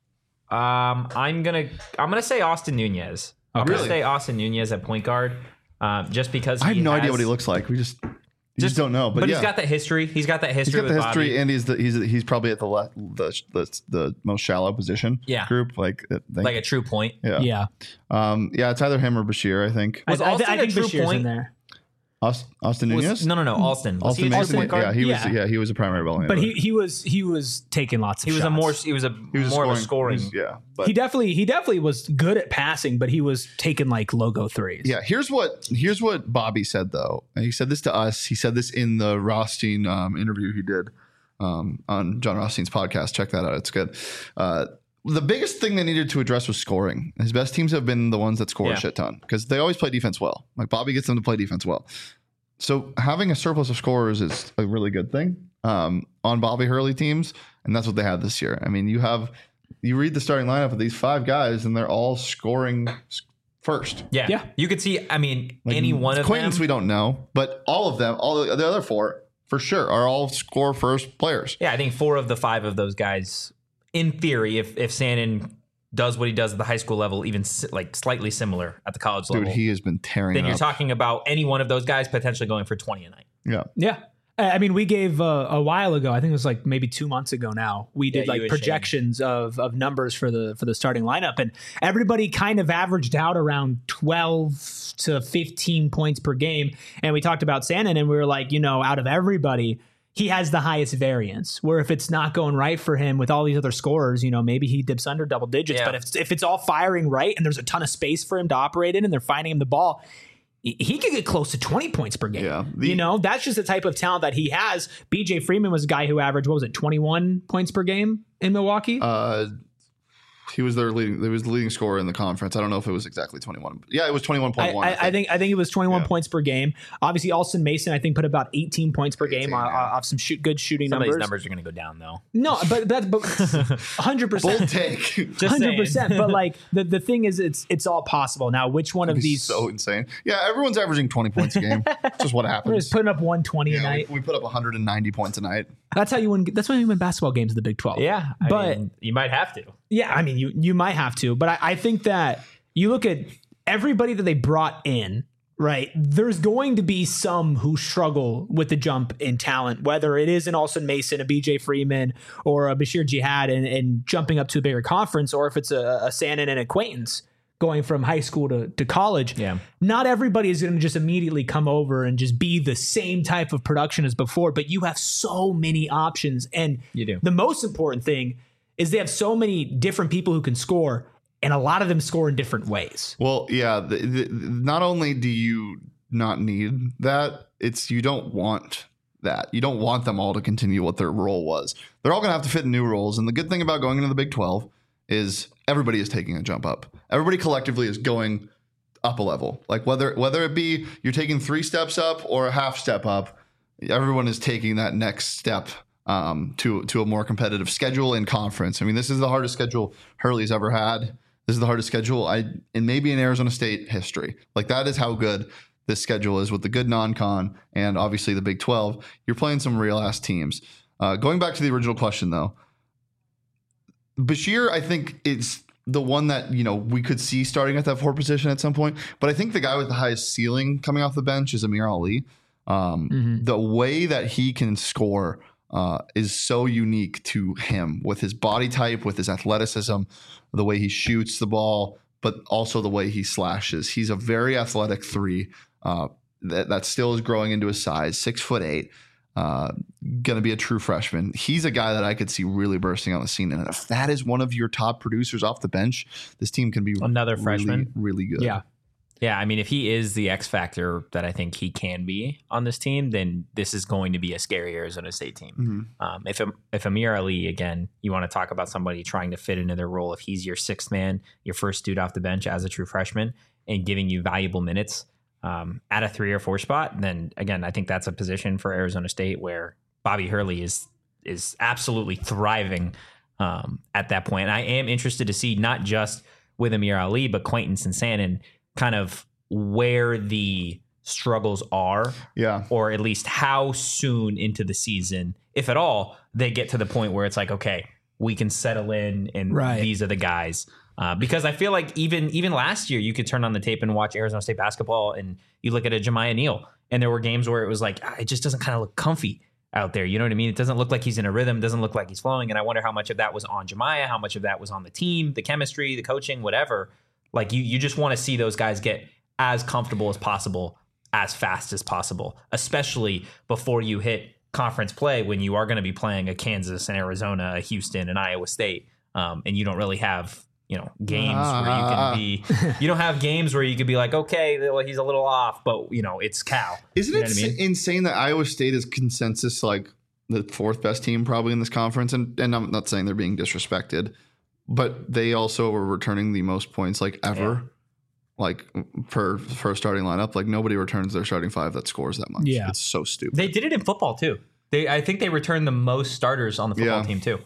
Um, I'm gonna I'm gonna say Austin Nunez. I'm Okay. gonna say Austin Nunez at point guard. Um, just because I have he no idea has- what he looks like. We just you just, don't know. But, But yeah, he's got that history. He's got that he's history. got the with history, Bobby. and he's the, he's he's probably at the le- the, the the most shallow position. Yeah. group like I think. like a true point. yeah Yeah. um yeah. It's either him or Bashir. I think Was I, I, Austin I a think true Bashir's point? in there. Aust- Austin Was- Nunez. no, no, no. Alston. Was Austin he a true Mason. point guard? Yeah, he was. Yeah. Yeah, he was a primary ball handler. But he he was he was taking lots of He was a shots. more he was a He was more of a he scoring. was- yeah, but He definitely he definitely was good at passing, but he was taking like logo threes. yeah. Here's what here's what Bobby said though. And he said this to us. He said this in the Rothstein um, interview he did um, on John Rothstein's podcast. Check that out. It's good. Uh, the biggest thing they needed to address was scoring. His best teams have been the ones that score Yeah. a shit ton because they always play defense well. Like Bobby gets them to play defense well. So having a surplus of scorers is a really good thing um, on Bobby Hurley teams, and that's what they had this year. I mean, you have you read the starting lineup of these five guys, and they're all scoring first. Yeah. Yeah. You could see, I mean, like, any one of Quaintance them. we don't know, but all of them, all the, the other four, for sure, are all score first players. Yeah, I think four of the five of those guys, in theory, if if Sandin does what he does at the high school level, even si- like slightly similar at the college Dude, level, he has been tearing then up. you're talking about any one of those guys potentially going for twenty a night. Yeah. Yeah. I mean, we gave uh, a while ago, I think it was like maybe two months ago now, we did Yeah, you like and projections of, of numbers for the for the starting lineup. And everybody kind of averaged out around twelve to fifteen points per game. And we talked about Sandin and we were like, you know, out of everybody, he has the highest variance, where if it's not going right for him with all these other scorers, you know, maybe he dips under double digits. Yeah. But if, if it's all firing right and there's a ton of space for him to operate in and they're finding him the ball, he could get close to twenty points per game. Yeah. The- you know, that's just the type of talent that he has. B J Freeman was a guy who averaged, what was it, twenty-one points per game in Milwaukee? Uh, he was their leading. He was the leading scorer in the conference. I don't know if it was exactly twenty-one. Yeah, it was twenty-one point I, one. I, I think I think it was twenty-one Yeah. points per game. Obviously, Alston Mason, I think, put about eighteen points per game eighteen, off, yeah. off some shoot, good shooting Some numbers. of these numbers are going to go down, though. No, but that's but one hundred percent. Bold take. Just one hundred saying. percent. But like the, the thing is, it's it's all possible. Now, which one of He's these? so insane. Yeah, everyone's averaging twenty points a game. It's just what We're happens. just putting up one twenty a Yeah, night. we, we put up one hundred ninety points a night. That's how you win. That's when you win basketball games in the Big twelve. Yeah, I but mean, you might have to. yeah, I mean, you you might have to, but I, I think that you look at everybody that they brought in, right? There's going to be some who struggle with the jump in talent, whether it is an Alston Mason, a B J Freeman, or a Bashir Jihad, and, and jumping up to a bigger conference, or if it's a, a Sandin and Acquaintance going from high school to, to college. Yeah. Not everybody is going to just immediately come over and just be the same type of production as before, but you have so many options. And You do. the most important thing is they have so many different people who can score, and a lot of them score in different ways. Well, yeah. The, the, not only do you not need that, it's you don't want that. You don't want them all to continue what their role was. They're all going to have to fit in new roles. And the good thing about going into the Big twelve is everybody is taking a jump up. Everybody collectively is going up a level. Like whether whether it be you're taking three steps up or a half step up, everyone is taking that next step um, to to a more competitive schedule in conference. I mean, this is the hardest schedule Hurley's ever had. This is the hardest schedule I and maybe in Arizona State history. Like that is how good this schedule is with the good non-con and obviously the Big twelve. You're playing some real ass teams. Uh, going back to the original question though, Bashir, I think is the one that, you know, we could see starting at that four position at some point. But I think the guy with the highest ceiling coming off the bench is Amir Ali. Um, Mhm. The way that he can score uh, is so unique to him with his body type, with his athleticism, the way he shoots the ball, but also the way he slashes. He's a very athletic three uh, that, that still is growing into his size, six foot eight. Uh, going to be a true freshman. He's a guy that I could see really bursting on the scene. And if that is one of your top producers off the bench, this team can be Another really, freshman? really good. Yeah. Yeah, I mean, if he is the X factor that I think he can be on this team, then this is going to be a scary Arizona State team. Mhm. Um, if if Amir Ali, again, you want to talk about somebody trying to fit into their role, if he's your sixth man, your first dude off the bench as a true freshman, and giving you valuable minutes um, at a three or four spot, then again, I think that's a position for Arizona State where Bobby Hurley is is absolutely thriving um, at that point. And I am interested to see not just with Amir Ali, but Quaintance and Sandin, kind of where the struggles are, Yeah. or at least how soon into the season, if at all, they get to the point where it's like, okay, we can settle in and Right. these are the guys. Uh, because I feel like even even last year, you could turn on the tape and watch Arizona State basketball and you look at a Jemiah Neal and there were games where it was like, ah, it just doesn't kind of look comfy out there. You know what I mean? It doesn't look like he's in a rhythm, doesn't look like he's flowing. And I wonder how much of that was on Jemiah, how much of that was on the team, the chemistry, the coaching, whatever. Like you, you just want to see those guys get as comfortable as possible, as fast as possible, especially before you hit conference play when you are going to be playing a Kansas and Arizona, a Houston and Iowa State, um, and you don't really have you know games Ah. where you can be. You don't have games where you could be like, okay, well, he's a little off, but you know it's Cal. Isn't You know it what I mean? insane that Iowa State is consensus like the fourth best team probably in this conference? And and I'm not saying they're being disrespected, but they also were returning the most points like ever, Yeah. like per for a starting lineup. Like nobody returns their starting five that scores that much. Yeah. It's so stupid. They did it in football too. They, I think they returned the most starters on the football Yeah. team too.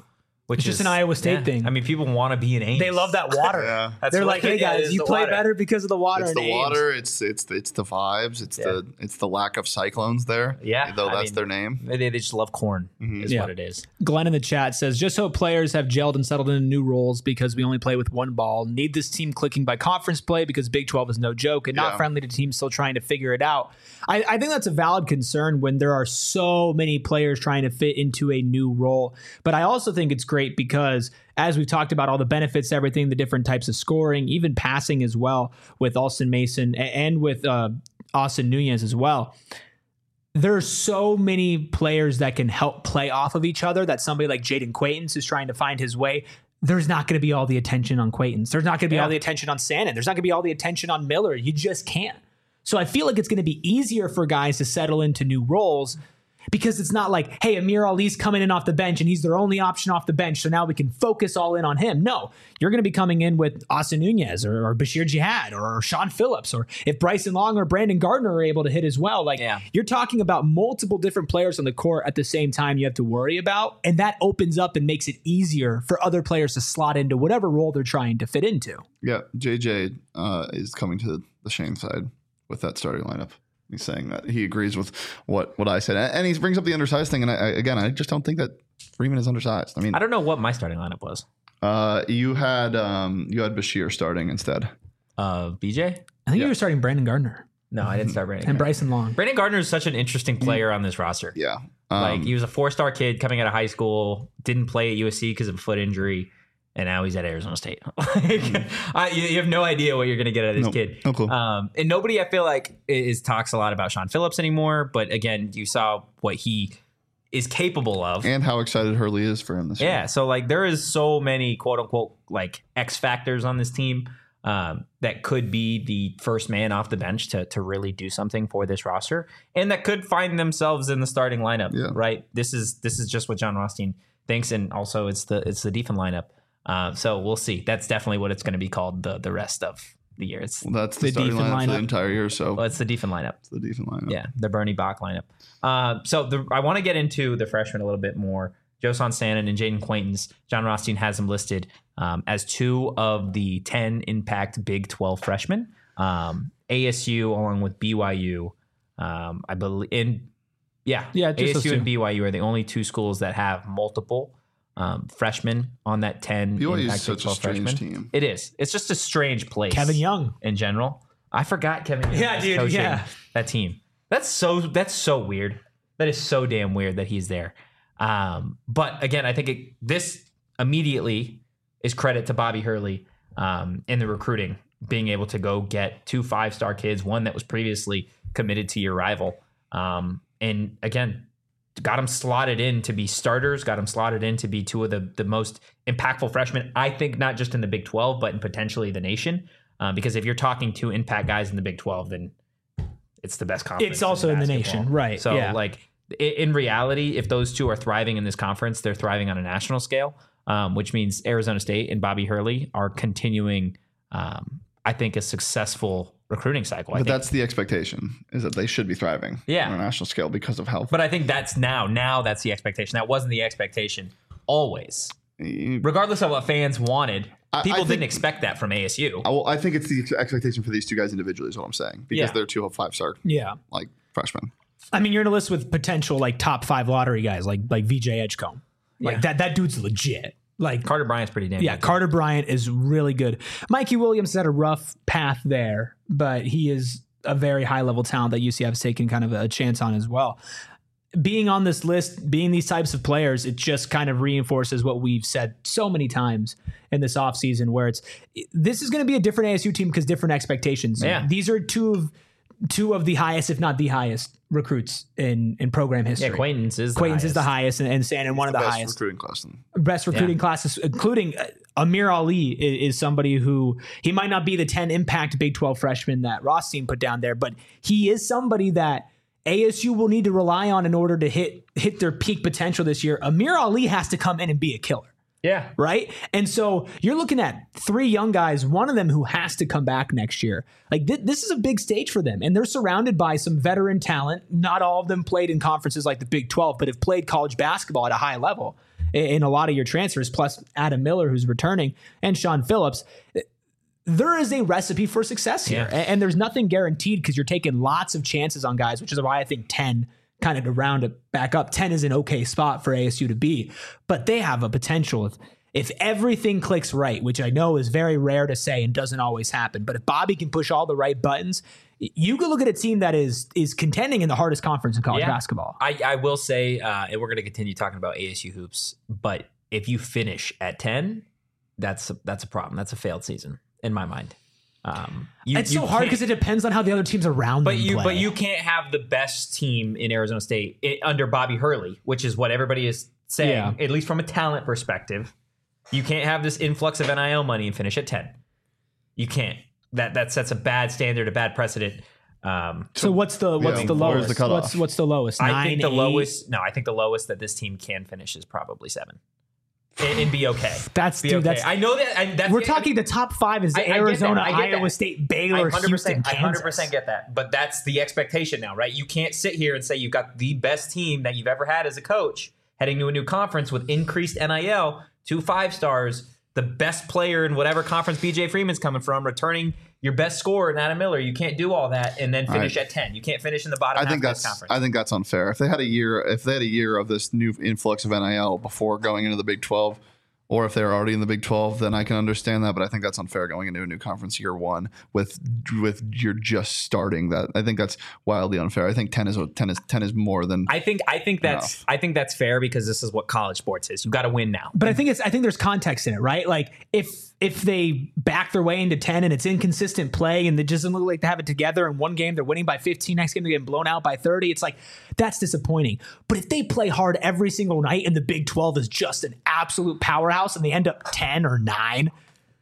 Which It's is just an Iowa State yeah. thing. I mean, people want to be in Ames. They love that water. Yeah. That's They're what- like, hey yeah, it guys, is you the play water. better because of the water. It's in the Ames. water. It's it's the, it's the vibes. It's Yeah. the it's the lack of cyclones there. Yeah, though I that's mean, their name. They, they just love corn, is Yeah. what it is. Glenn in the chat says, just hope players have gelled and settled into new roles because we only play with one ball. Need this team clicking by conference play because Big twelve is no joke and not Yeah. friendly to teams still trying to figure it out. I, I think that's a valid concern when there are so many players trying to fit into a new role. But I also think it's great because as we've talked about all the benefits, everything, the different types of scoring, even passing as well with Alston Mason a- and with uh, Austin Nunez as well. There's so many players that can help play off of each other that somebody like Jaden Quaintance is trying to find his way. There's not going to be all the attention on Quaintance. There's not going to be Yeah. all the attention on Sannon. There's not going to be all the attention on Miller. You just can't. So I feel like it's going to be easier for guys to settle into new roles because it's not like, hey, Amir Ali's coming in off the bench and he's their only option off the bench. So now we can focus all in on him. No, you're going to be coming in with Austin Nunez or, or Bashir Jihad or, or Sean Phillips, or if Bryson Long or Brandon Gardner are able to hit as well. Like Yeah. you're talking about multiple different players on the court at the same time you have to worry about. And that opens up and makes it easier for other players to slot into whatever role they're trying to fit into. Yeah, J J uh, is coming to the Shane side with that starting lineup. He's saying that he agrees with what, what I said, and he brings up the undersized thing. And I, I, again, I just don't think that Freeman is undersized. I mean, I don't know what my starting lineup was. uh, you had um, you had Bashir starting instead. Uh, B J? I think Yeah. you were starting Brandon Gardner No, I didn't start Brandon. and Gardner. Bryson Long. Brandon Gardner is such an interesting player on this roster. Yeah, um, Like he was a four-star kid coming out of high school, didn't play at U S C because of a foot injury, and now he's at Arizona State. like, I, you, you have no idea what you're going to get out of this No, kid. no clue. Um, and nobody, I feel like, is talks a lot about Sean Phillips anymore. But again, you saw what he is capable of. and how excited Hurley is for him this year. Yeah, so like there is so many quote unquote like X factors on this team um, that could be the first man off the bench to to really do something for this roster, and that could find themselves in the starting lineup. Yeah. Right. This is this is just what John Rothstein thinks, and also it's the it's the defense lineup. Uh, so we'll see. That's definitely what it's going to be called the the rest of the year. It's Well, that's the, The starting defense lineup, for the lineup. entire year. So well, it's the defense lineup. it's the defense lineup. Yeah, the Bernie Bach lineup. Uh, so the, I want to get into the freshmen a little bit more. Josan Sannon and Jaden Quaintance. John Rothstein has them listed um, as two of the ten impact Big twelve freshmen. Um, A S U along with B Y U, um, I believe. In yeah, Yeah, just those A S U and two. B Y U are the only two schools that have multiple um, freshmen on that ten B Y U is impact Big such a twelve strange freshmen. team. It is. It's just a strange place. Kevin Young. in general. I forgot Kevin Young Yeah, was dude, coaching yeah. that team. That's so that's so weird. That is so damn weird that he's there. Um, but again, I think it, this immediately is credit to Bobby Hurley um, in the recruiting, being able to go get two five-star kids, one that was previously committed to your rival. Um, and again, got them slotted in to be starters, got them slotted in to be two of the, the most impactful freshmen, I think, not just in the Big twelve, but in potentially the nation. Um, because if you're talking two impact guys in the Big twelve, then it's the best conference. It's also in the basketball. nation, right, So, yeah. like, i- in reality, if those two are thriving in this conference, they're thriving on a national scale, um, which means Arizona State and Bobby Hurley are continuing, um, I think, a successful recruiting cycle. I But think. that's the expectation, is that they should be thriving Yeah. on a national scale because of health. But I think that's now. Now that's the expectation. That wasn't the expectation always. Regardless of what fans wanted, I- I people think- didn't expect that from A S U. I, well, I think it's the ex- expectation for these two guys individually is what I'm saying, because Yeah. they're two five star Yeah. like freshmen. I mean, you're in a list with potential like top five lottery guys, like like V J Edgecombe. Like Yeah. that that dude's legit. Like Carter Bryant's pretty damn yeah, good. Carter Bryant is really good. Mikey Williams had a rough path there, but he is a very high level talent that U C F has taken kind of a chance on as well. Being on this list, being these types of players, it just kind of reinforces what we've said so many times in this offseason, where it's this is going to be a different A S U team because different expectations. Yeah. These are two of two of the highest, if not the highest, recruits in in program history. Yeah, Quaintance is the Quaintance is the highest. highest, and, and Sandon one of the Best highest recruiting class. In. best recruiting Yeah. classes, including uh, Amir Ali is, is somebody who he might not be the ten impact Big twelve freshman that Rothstein put down there, but he is somebody that A S U will need to rely on in order to hit hit their peak potential this year. Amir Ali has to come in and be a killer. Yeah. Right. And so you're looking at three young guys, one of them who has to come back next year. Like th- this is a big stage for them. And they're surrounded by some veteran talent. Not all of them played in conferences like the Big twelve, but have played college basketball at a high level. in, in a lot of your transfers, plus Adam Miller, who's returning, and Sean Phillips. There is a recipe for success here, Yeah. and, and there's nothing guaranteed because you're taking lots of chances on guys, which is why I think ten, kind of to round it back up, ten is an okay spot for A S U to be, but they have a potential if, if everything clicks right, which I know is very rare to say and doesn't always happen, but if Bobby can push all the right buttons, you could look at a team that is is contending in the hardest conference in college Yeah. basketball. I, I will say, uh, and we're going to continue talking about A S U hoops, but if you finish at ten, that's a, that's a problem. That's a failed season in my mind. Um, you, It's you so hard can't- because it depends on how the other teams around But them you, play. but you can't have the best team in Arizona State i under Bobby Hurley, which is what everybody is saying, Yeah. at least from a talent perspective. You can't have this influx of N I L money and finish at ten. You can't. That that sets a bad standard, a bad precedent. Um, So what's the what's Yeah, the where's lowest? the cutoff? what's what's the lowest? I Nine, think the eight? lowest. No, I think the lowest that this team can finish is probably seven, and, and be okay. That's Be dude. okay. That's I know that. I, that's we're the- talking the top five is I- I get that. Arizona, I get Iowa that. State, Baylor, I Houston, I one hundred Kansas. percent get that, but that's the expectation now, right? You can't sit here and say you've got the best team that you've ever had as a coach heading to a new conference with increased N I L, two five stars, the best player in whatever conference B J Freeman's coming from, returning your best scorer in Adam Miller. You can't do all that and then finish I- at ten. You can't finish in the bottom I half think of that's this conference. I think that's unfair. If they had a year, if they had a year of this new influx of N I L before going into the Big twelve, or if they're already in the Big twelve, then I can understand that. But I think that's unfair going into a new conference year one with with you're just starting that. I think that's wildly unfair. I think ten is ten is ten is more than. I think I think that's Enough. I think that's fair because this is what college sports is. You got to win now. But I think it's I think there's context in it, right? Like if if they back their way into ten and it's inconsistent play and it doesn't look like they have it together, and one game they're winning by fifteen, next game they're getting blown out by thirty, it's like that's disappointing. But if they play hard every single night and the Big twelve is just an absolute powerhouse and they end up ten or nine,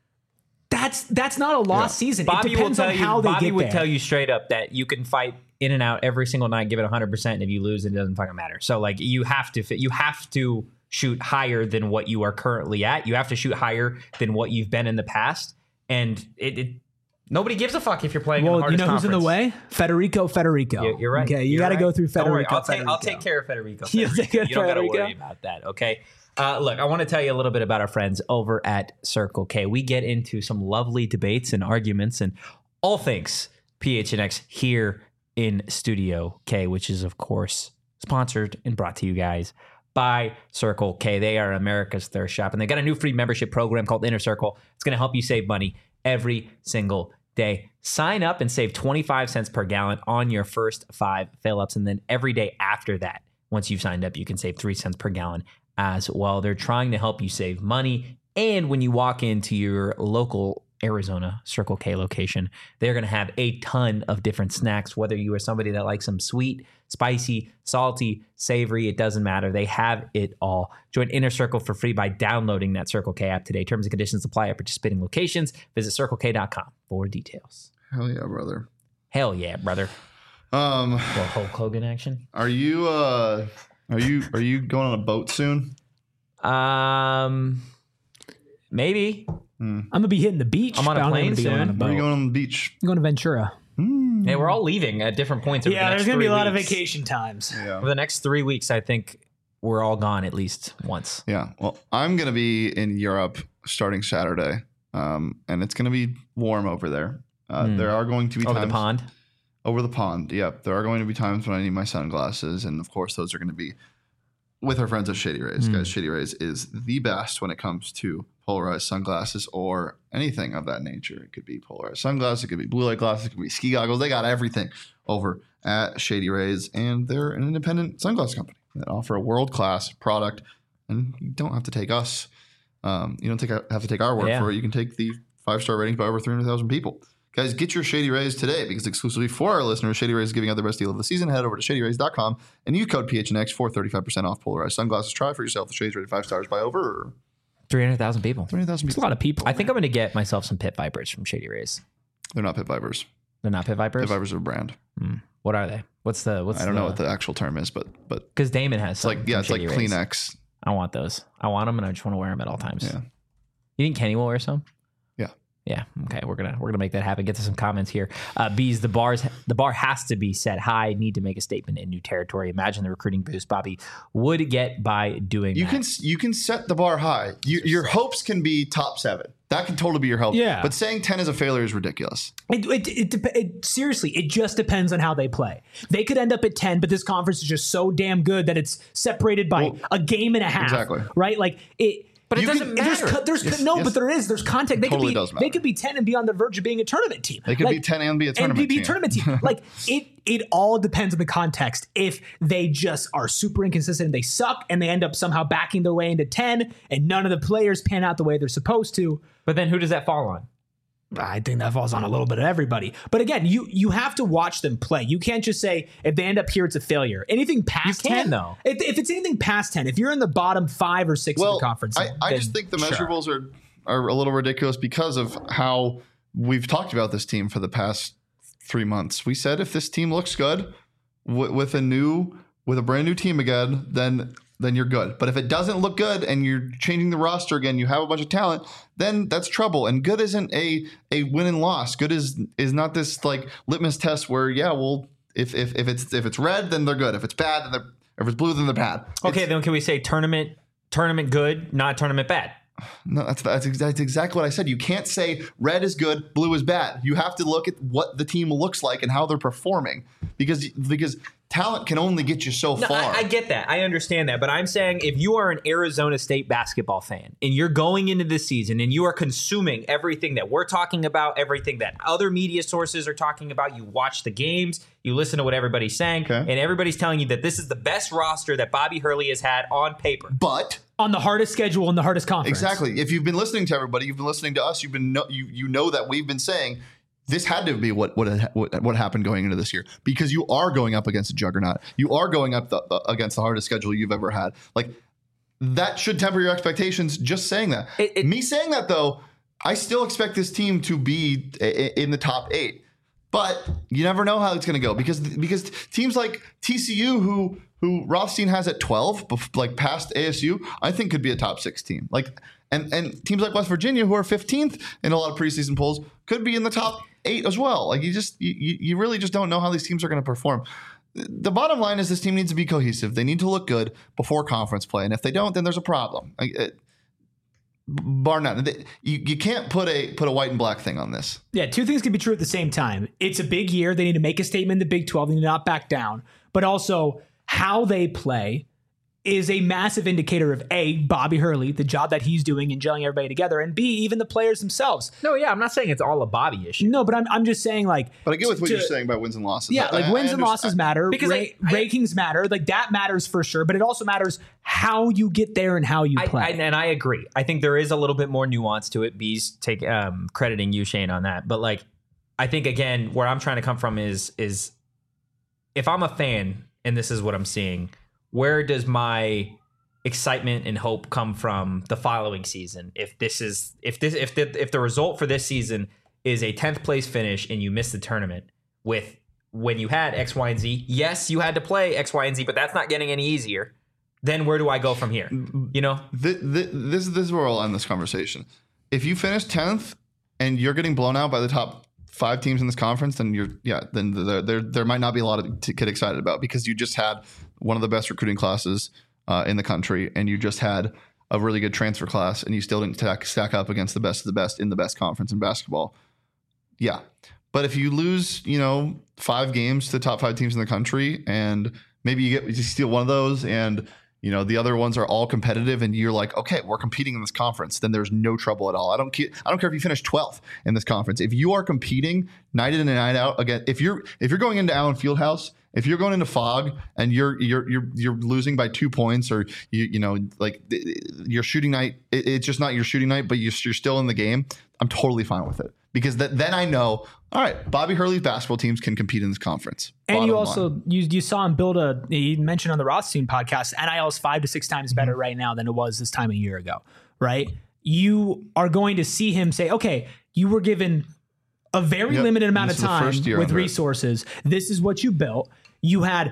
that's that's not a lost Yeah. season. Bobby it will depends tell on you. how they Bobby get would there. tell you straight up that you can fight in and out every single night, give it one hundred percent, and if you lose, it doesn't fucking matter. So like you have to fit. You have to shoot higher than what you are currently at. You have to shoot higher than what you've been in the past, and it. it nobody gives a fuck if you're playing. in the Well, you hardest know who's in the conference. way? Federico Federico. You're, you're right. Okay, you You're got to right. go through Don't worry, Federico. I'll take I'll Federico. take care of Federico. You'll Federico. take care of You don't got to Federico? worry about that. Okay. Uh, look, I want to tell you a little bit about our friends over at Circle K. We get into some lovely debates and arguments and all things P H N X here in Studio K, which is, of course, sponsored and brought to you guys by Circle K. They are America's thirst shop, and they got a new free membership program called Inner Circle. It's going to help you save money every single day. Sign up and save twenty-five cents per gallon on your first five fill-ups, and then every day after that, once you've signed up, you can save three cents per gallon as well. They're trying to help you save money, and when you walk into your local Arizona Circle K location, they're going to have a ton of different snacks, whether you are somebody that likes some sweet, spicy, salty, savory, it doesn't matter. They have it all. Join Inner Circle for free by downloading that Circle K app today. Terms and conditions apply at participating locations. Visit circle k dot com for details. Hell yeah, brother. Hell yeah, brother. Um, Well, Hulk Hogan action. are you uh, are you are you going on a boat soon? Um, maybe. I'm gonna be hitting the beach. I'm on a but I don't plane think I'm gonna be soon. on a Where are you boat. going on the beach? I'm going to Ventura. Hey, we're all leaving at different points. Over Yeah, the there's next gonna be a three lot of weeks. vacation times. Yeah. Over the next three weeks, I think we're all gone at least once. Yeah. Well, I'm going to be in Europe starting Saturday, um, and it's going to be warm over there. Uh, Hmm. There are going to be Over times the pond. over the pond. Yep. There are going to be times when I need my sunglasses, and of course, those are going to be with our friends at Shady Rays. Hmm. Guys, Shady Rays is the best when it comes to polarized sunglasses or anything of that nature. It could be polarized sunglasses, it could be blue light glasses, it could be ski goggles. They got everything over at Shady Rays, and they're an independent sunglass company that offer a world class product. And you don't have to take us. Um, you don't take, have to take our word Yeah. for it. You can take the five star ratings by over three hundred thousand people. Guys, get your Shady Rays today because exclusively for our listeners, Shady Rays is giving out the best deal of the season. Head over to shady rays dot com and use code P H N X for thirty-five percent off polarized sunglasses. Try for yourself. The Shades rated five stars by over three hundred thousand people. three hundred thousand It's a people. lot of people. I think I'm going to get myself some pit vipers from Shady Rays. They're not pit vipers. They're not pit vipers. Pit vipers are a brand. What are they? What's the? What's I don't know what the actual term is, but but Because Damon has it's like yeah, it's like Kleenex. I want those. I want them, and I just want to wear them at all times. Yeah. You think Kenny will wear some? Yeah. Yeah. Okay. We're gonna we're gonna make that happen. Get to some comments here. Uh, Bees, the bars the bar has to be set high. Need to make a statement in new territory. Imagine the recruiting boost Bobby would get by doing You that. can you can set the bar high. You, your hopes can be top seven. That can totally be your hope. Yeah. But saying ten is a failure is ridiculous. It, it, it, dep- it seriously, it just depends on how they play. They could end up at ten, but this conference is just so damn good that it's separated by Well, a game and a half. exactly. Right? Like it. But it You doesn't can- matter. There's, co- there's Yes, no, yes. but there is. There's contact. They Totally could be. does matter. They could be ten and be on the verge of being a tournament team. They could be ten and be a tournament and be, team. be a tournament team. Like it. It all depends on the context. If they just are super inconsistent and they suck, and they end up somehow backing their way into ten, and none of the players pan out the way they're supposed to. But then who does that fall on? I think that falls on a little bit of everybody. But again, you you have to watch them play. You can't just say if they end up here, it's a failure. Anything past You can, ten, though. If, if it's anything past ten, if you're in the bottom five or six Well, of the conference, I, I then just think the sure. measurables are are a little ridiculous because of how we've talked about this team for the past three months. We said if this team looks good w- with a new with a brand new team again, then then you're good. But if it doesn't look good and you're changing the roster again, you have a bunch of talent, then that's trouble. And good isn't a a win and loss. Good is is not this like litmus test where yeah, well if if if it's if it's red, then they're good. If it's bad, then they're if it's blue, then they're bad. Okay, then can we say tournament tournament good, not tournament bad? No, that's, that's ex- that's exactly what I said. You can't say red is good, blue is bad. You have to look at what the team looks like and how they're performing, because because talent can only get you so No, far. I, I get that. I understand that. But I'm saying if you are an Arizona State basketball fan and you're going into this season and you are consuming everything that we're talking about, everything that other media sources are talking about, you watch the games, you listen to what everybody's saying, Okay. and everybody's telling you that this is the best roster that Bobby Hurley has had on paper. but on the hardest schedule in the hardest conference. exactly, if you've been listening to everybody, you've been listening to us, you've been know, you you know that we've been saying this had to be what what had- what, what happened going into this year, because you are going up against a juggernaut. You are going up the, the, against the hardest schedule you've ever had. Like that should temper your expectations. Just saying that. It- it- Me saying that though, I still expect this team to be i- i- in the top eight. But you never know how it's going to go because because teams like T C U, who who Rothstein has at twelve, bef- like past A S U, I think could be a top six team. Like and and teams like West Virginia, who are fifteenth in a lot of preseason polls, could be in the top eight as well. Like you just you, you really just don't know how these teams are going to perform. The bottom line is this team needs to be cohesive. They need to look good before conference play, and if they don't, then there's a problem. Like, it, bar none. They- You, you can't put a put a white and black thing on this. Yeah, two things can be true at the same time. It's a big year. They need to make a statement in the Big twelve. They need to not back down. But also, how they play is a massive indicator of A, Bobby Hurley, the job that he's doing in gelling everybody together, and B, even the players themselves. No, yeah, I'm not saying it's all a Bobby issue. No, but I'm, I'm just saying, like... But I get with what to- you're saying about wins and losses. Yeah, I- like I- wins I and understand- losses matter. Because Ra- I- I- rankings matter. Like that matters for sure. But it also matters how you get there and how you I, play. I, and I agree. I think there is a little bit more nuance to it. Bees take um, crediting you, Shane, on that. But like, I think again, where I'm trying to come from is is if I'm a fan and this is what I'm seeing, where does my excitement and hope come from the following season? If this is if this if the if the result for this season is a tenth place finish and you miss the tournament with when you had X, Y, and Z, yes, you had to play X, Y, and Z, but that's not getting any easier. Then where do I go from here? You know? Th- th- this, this is where I'll end this conversation. If you finish tenth and you're getting blown out by the top five teams in this conference, then you're yeah, then there there, there might not be a lot of to get excited about, because you just had one of the best recruiting classes uh, in the country, and you just had a really good transfer class, and you still didn't stack, stack up against the best of the best in the best conference in basketball. Yeah. But if you lose, you know, five games to the top five teams in the country, and maybe you get you steal one of those, and you know the other ones are all competitive, and you're like, okay, we're competing in this conference, then there's no trouble at all. I don't care. I don't care if you finish twelfth in this conference. If you are competing night in and night out again, if you're if you're going into Allen Fieldhouse, if you're going into Fog and you're you're you're you're losing by two points, or you you know like your shooting night, it, it's just not your shooting night, but you're, you're still in the game, I'm totally fine with it, because that, then I know, all right, Bobby Hurley's basketball teams can compete in this conference. And you Bottom also line. you you saw him build a. You mentioned on the Rothstein podcast, N I L is five to six times better Mm-hmm. right now than it was this time a year ago. Right? You are going to see him say, "Okay, you were given a very Yep. limited amount This of is the time first year with under it. resources. This is what you built. You had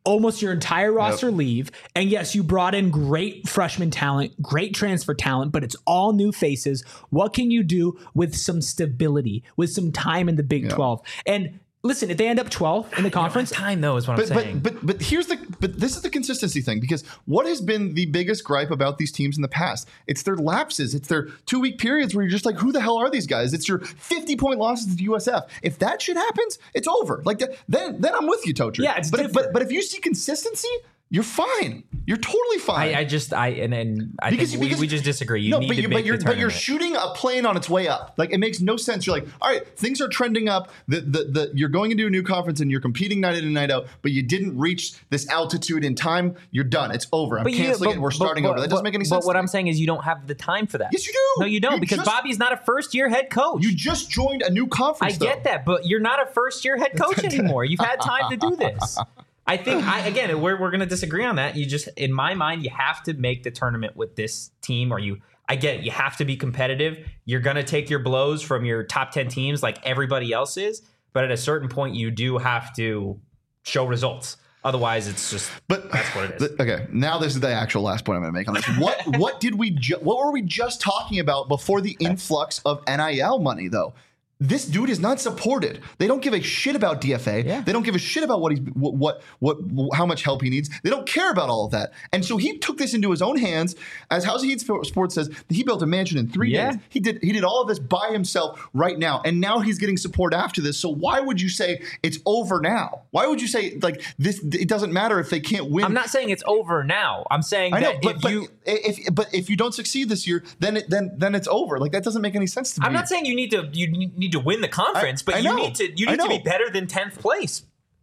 almost your entire roster Yep. leave. And yes, you brought in great freshman talent, great transfer talent, but it's all new faces. What can you do with some stability, with some time in the Big twelve? And listen, if they end up twelfth in the conference, Time though is what But, I'm saying. but but but here's the but this is the consistency thing, because what has been the biggest gripe about these teams in the past? It's their lapses. It's their two week periods where you're just like, who the hell are these guys? It's your fifty point losses to U S F. If that shit happens, it's over. Like th- then then I'm with you, Tocher. Yeah, it's but if, different. but but if you see consistency, you're fine. You're totally fine. I, I just I and, and I Because- think we, because- we just disagree. You no, need but to you, make but you're the but you're tournament. shooting a plane on its way up. Like it makes no sense. You're like, all right, things are trending up. The, the the you're going into a new conference and you're competing night in and night out, but you didn't reach this altitude in time. You're done. It's over. I'm But you- canceling but- it. We're but- starting but- over. That doesn't but- make any But sense. what to I'm me. saying is you don't have the time for that. Yes, you do. No, you don't, You because just- Bobby's not a first year head coach. you just joined a new I conference. get though. that, but you're not a first year head coach anymore. You've had time to do this. I think I again we're we're gonna disagree on that. You just in my mind you have to make the tournament with this team, or you I get it, you have to be competitive. You're gonna take your blows from your top ten teams like everybody else is, but at a certain point you do have to show results. Otherwise, it's just But that's what it is. th- okay, now this is the actual last point I'm going to make on this. What what did we ju- what were we just talking about before the influx of N I L money though? This dude is not supported. They don't give a shit about D F A. Yeah. They don't give a shit about what he's what, what what how much help he needs. They don't care about all of that. And so he took this into his own hands. As House of Heat Sports says, he built a mansion in three Yeah. days. He did he did all of this by himself right now, and now he's getting support after this. So why would you say it's over now? Why would you say like this? It doesn't matter if they can't win. I'm not saying it's over now. I'm saying I know, that but, if but you if but if you don't succeed this year, then it, then then it's over. Like that doesn't make any sense to me. I'm not saying you need to you need to win the conference, I- but I you know. need to you I need to be know. better than tenth place.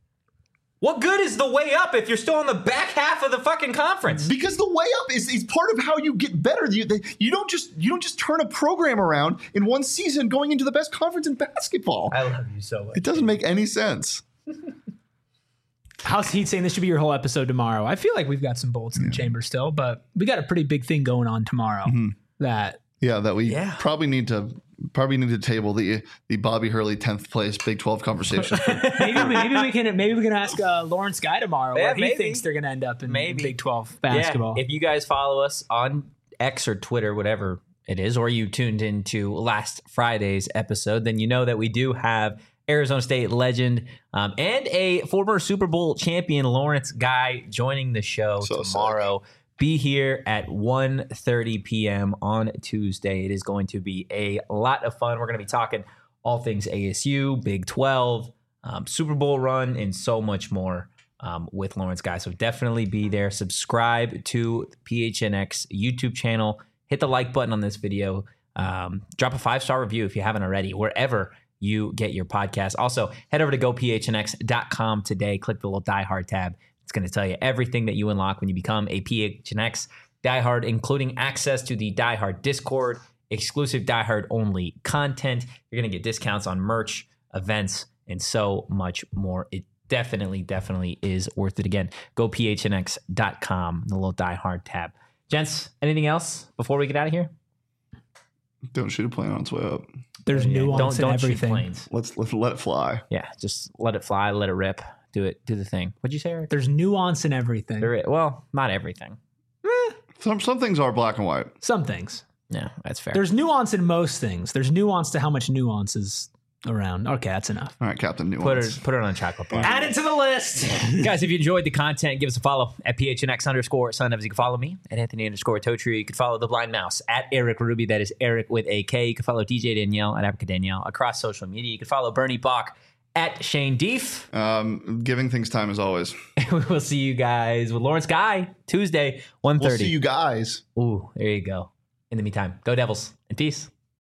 What good is the way up if you're still on the back half of the fucking conference? Because the way up is, is part of how you get better. You they, you don't just you don't just turn a program around in one season going into the best conference in basketball. I love you so much. It doesn't make any sense. House Heat saying this should be your whole episode tomorrow. I feel like we've got some bullets in the chamber still, but we got a pretty big thing going on tomorrow. That Yeah, that we Yeah. probably need to probably need to table the the Bobby Hurley tenth place Big twelve conversation. maybe maybe we can maybe we can ask uh, Lawrence Guy tomorrow Yeah, where he maybe. thinks they're going to end up in Maybe. Big twelve basketball. Yeah, if you guys follow us on X or Twitter, whatever it is, or you tuned into last Friday's episode, then you know that we do have Arizona State legend um, and a former Super Bowl champion, Lawrence Guy, joining the show So tomorrow. Be here at one thirty p.m. on Tuesday. It is going to be a lot of fun. We're going to be talking all things A S U, Big twelve, um, Super Bowl run, and so much more um, with Lawrence Guy. So definitely be there. Subscribe to the P H N X YouTube channel. Hit the like button on this video. Um, drop a five-star review if you haven't already, wherever you get your podcast. Also, head over to go p h n x dot com today. Click the little Die Hard tab. It's going to tell you everything that you unlock when you become a P H N X diehard, including access to the diehard Discord, exclusive diehard only content. You're going to get discounts on merch, events, and so much more. It definitely, definitely is worth it. Again, go p h n x dot com, the little diehard tab. Gents, anything else before we get out of here? Don't shoot a plane on its way up. There's Yeah, nuance don't, in don't shoot everything. planes. Let's let let it fly. Yeah, just let it fly, let it rip. Do it, do the thing. What'd you say, Eric? There's nuance in everything. There is, well, not everything. Some some things are black and white. Some things. Yeah, that's fair. There's nuance in most things. There's nuance to how much nuance is around. Okay, that's enough. All right, Captain put Nuance. it, put it on a chocolate bar. Add it to the list. Guys, if you enjoyed the content, give us a follow at P H N X underscore Son Evans. You can follow me at Anthony underscore Totri. You can follow The Blind Mouse at Eric Ruby. That is Eric with a K. You can follow D J Danielle at Abrica Danielle across social media. You can follow Bernie Bach at Shane Deef. Um, giving things time as always. We will see you guys with Lawrence Guy Tuesday, one thirty. We'll see you guys. Ooh, there you go. In the meantime, go Devils and peace.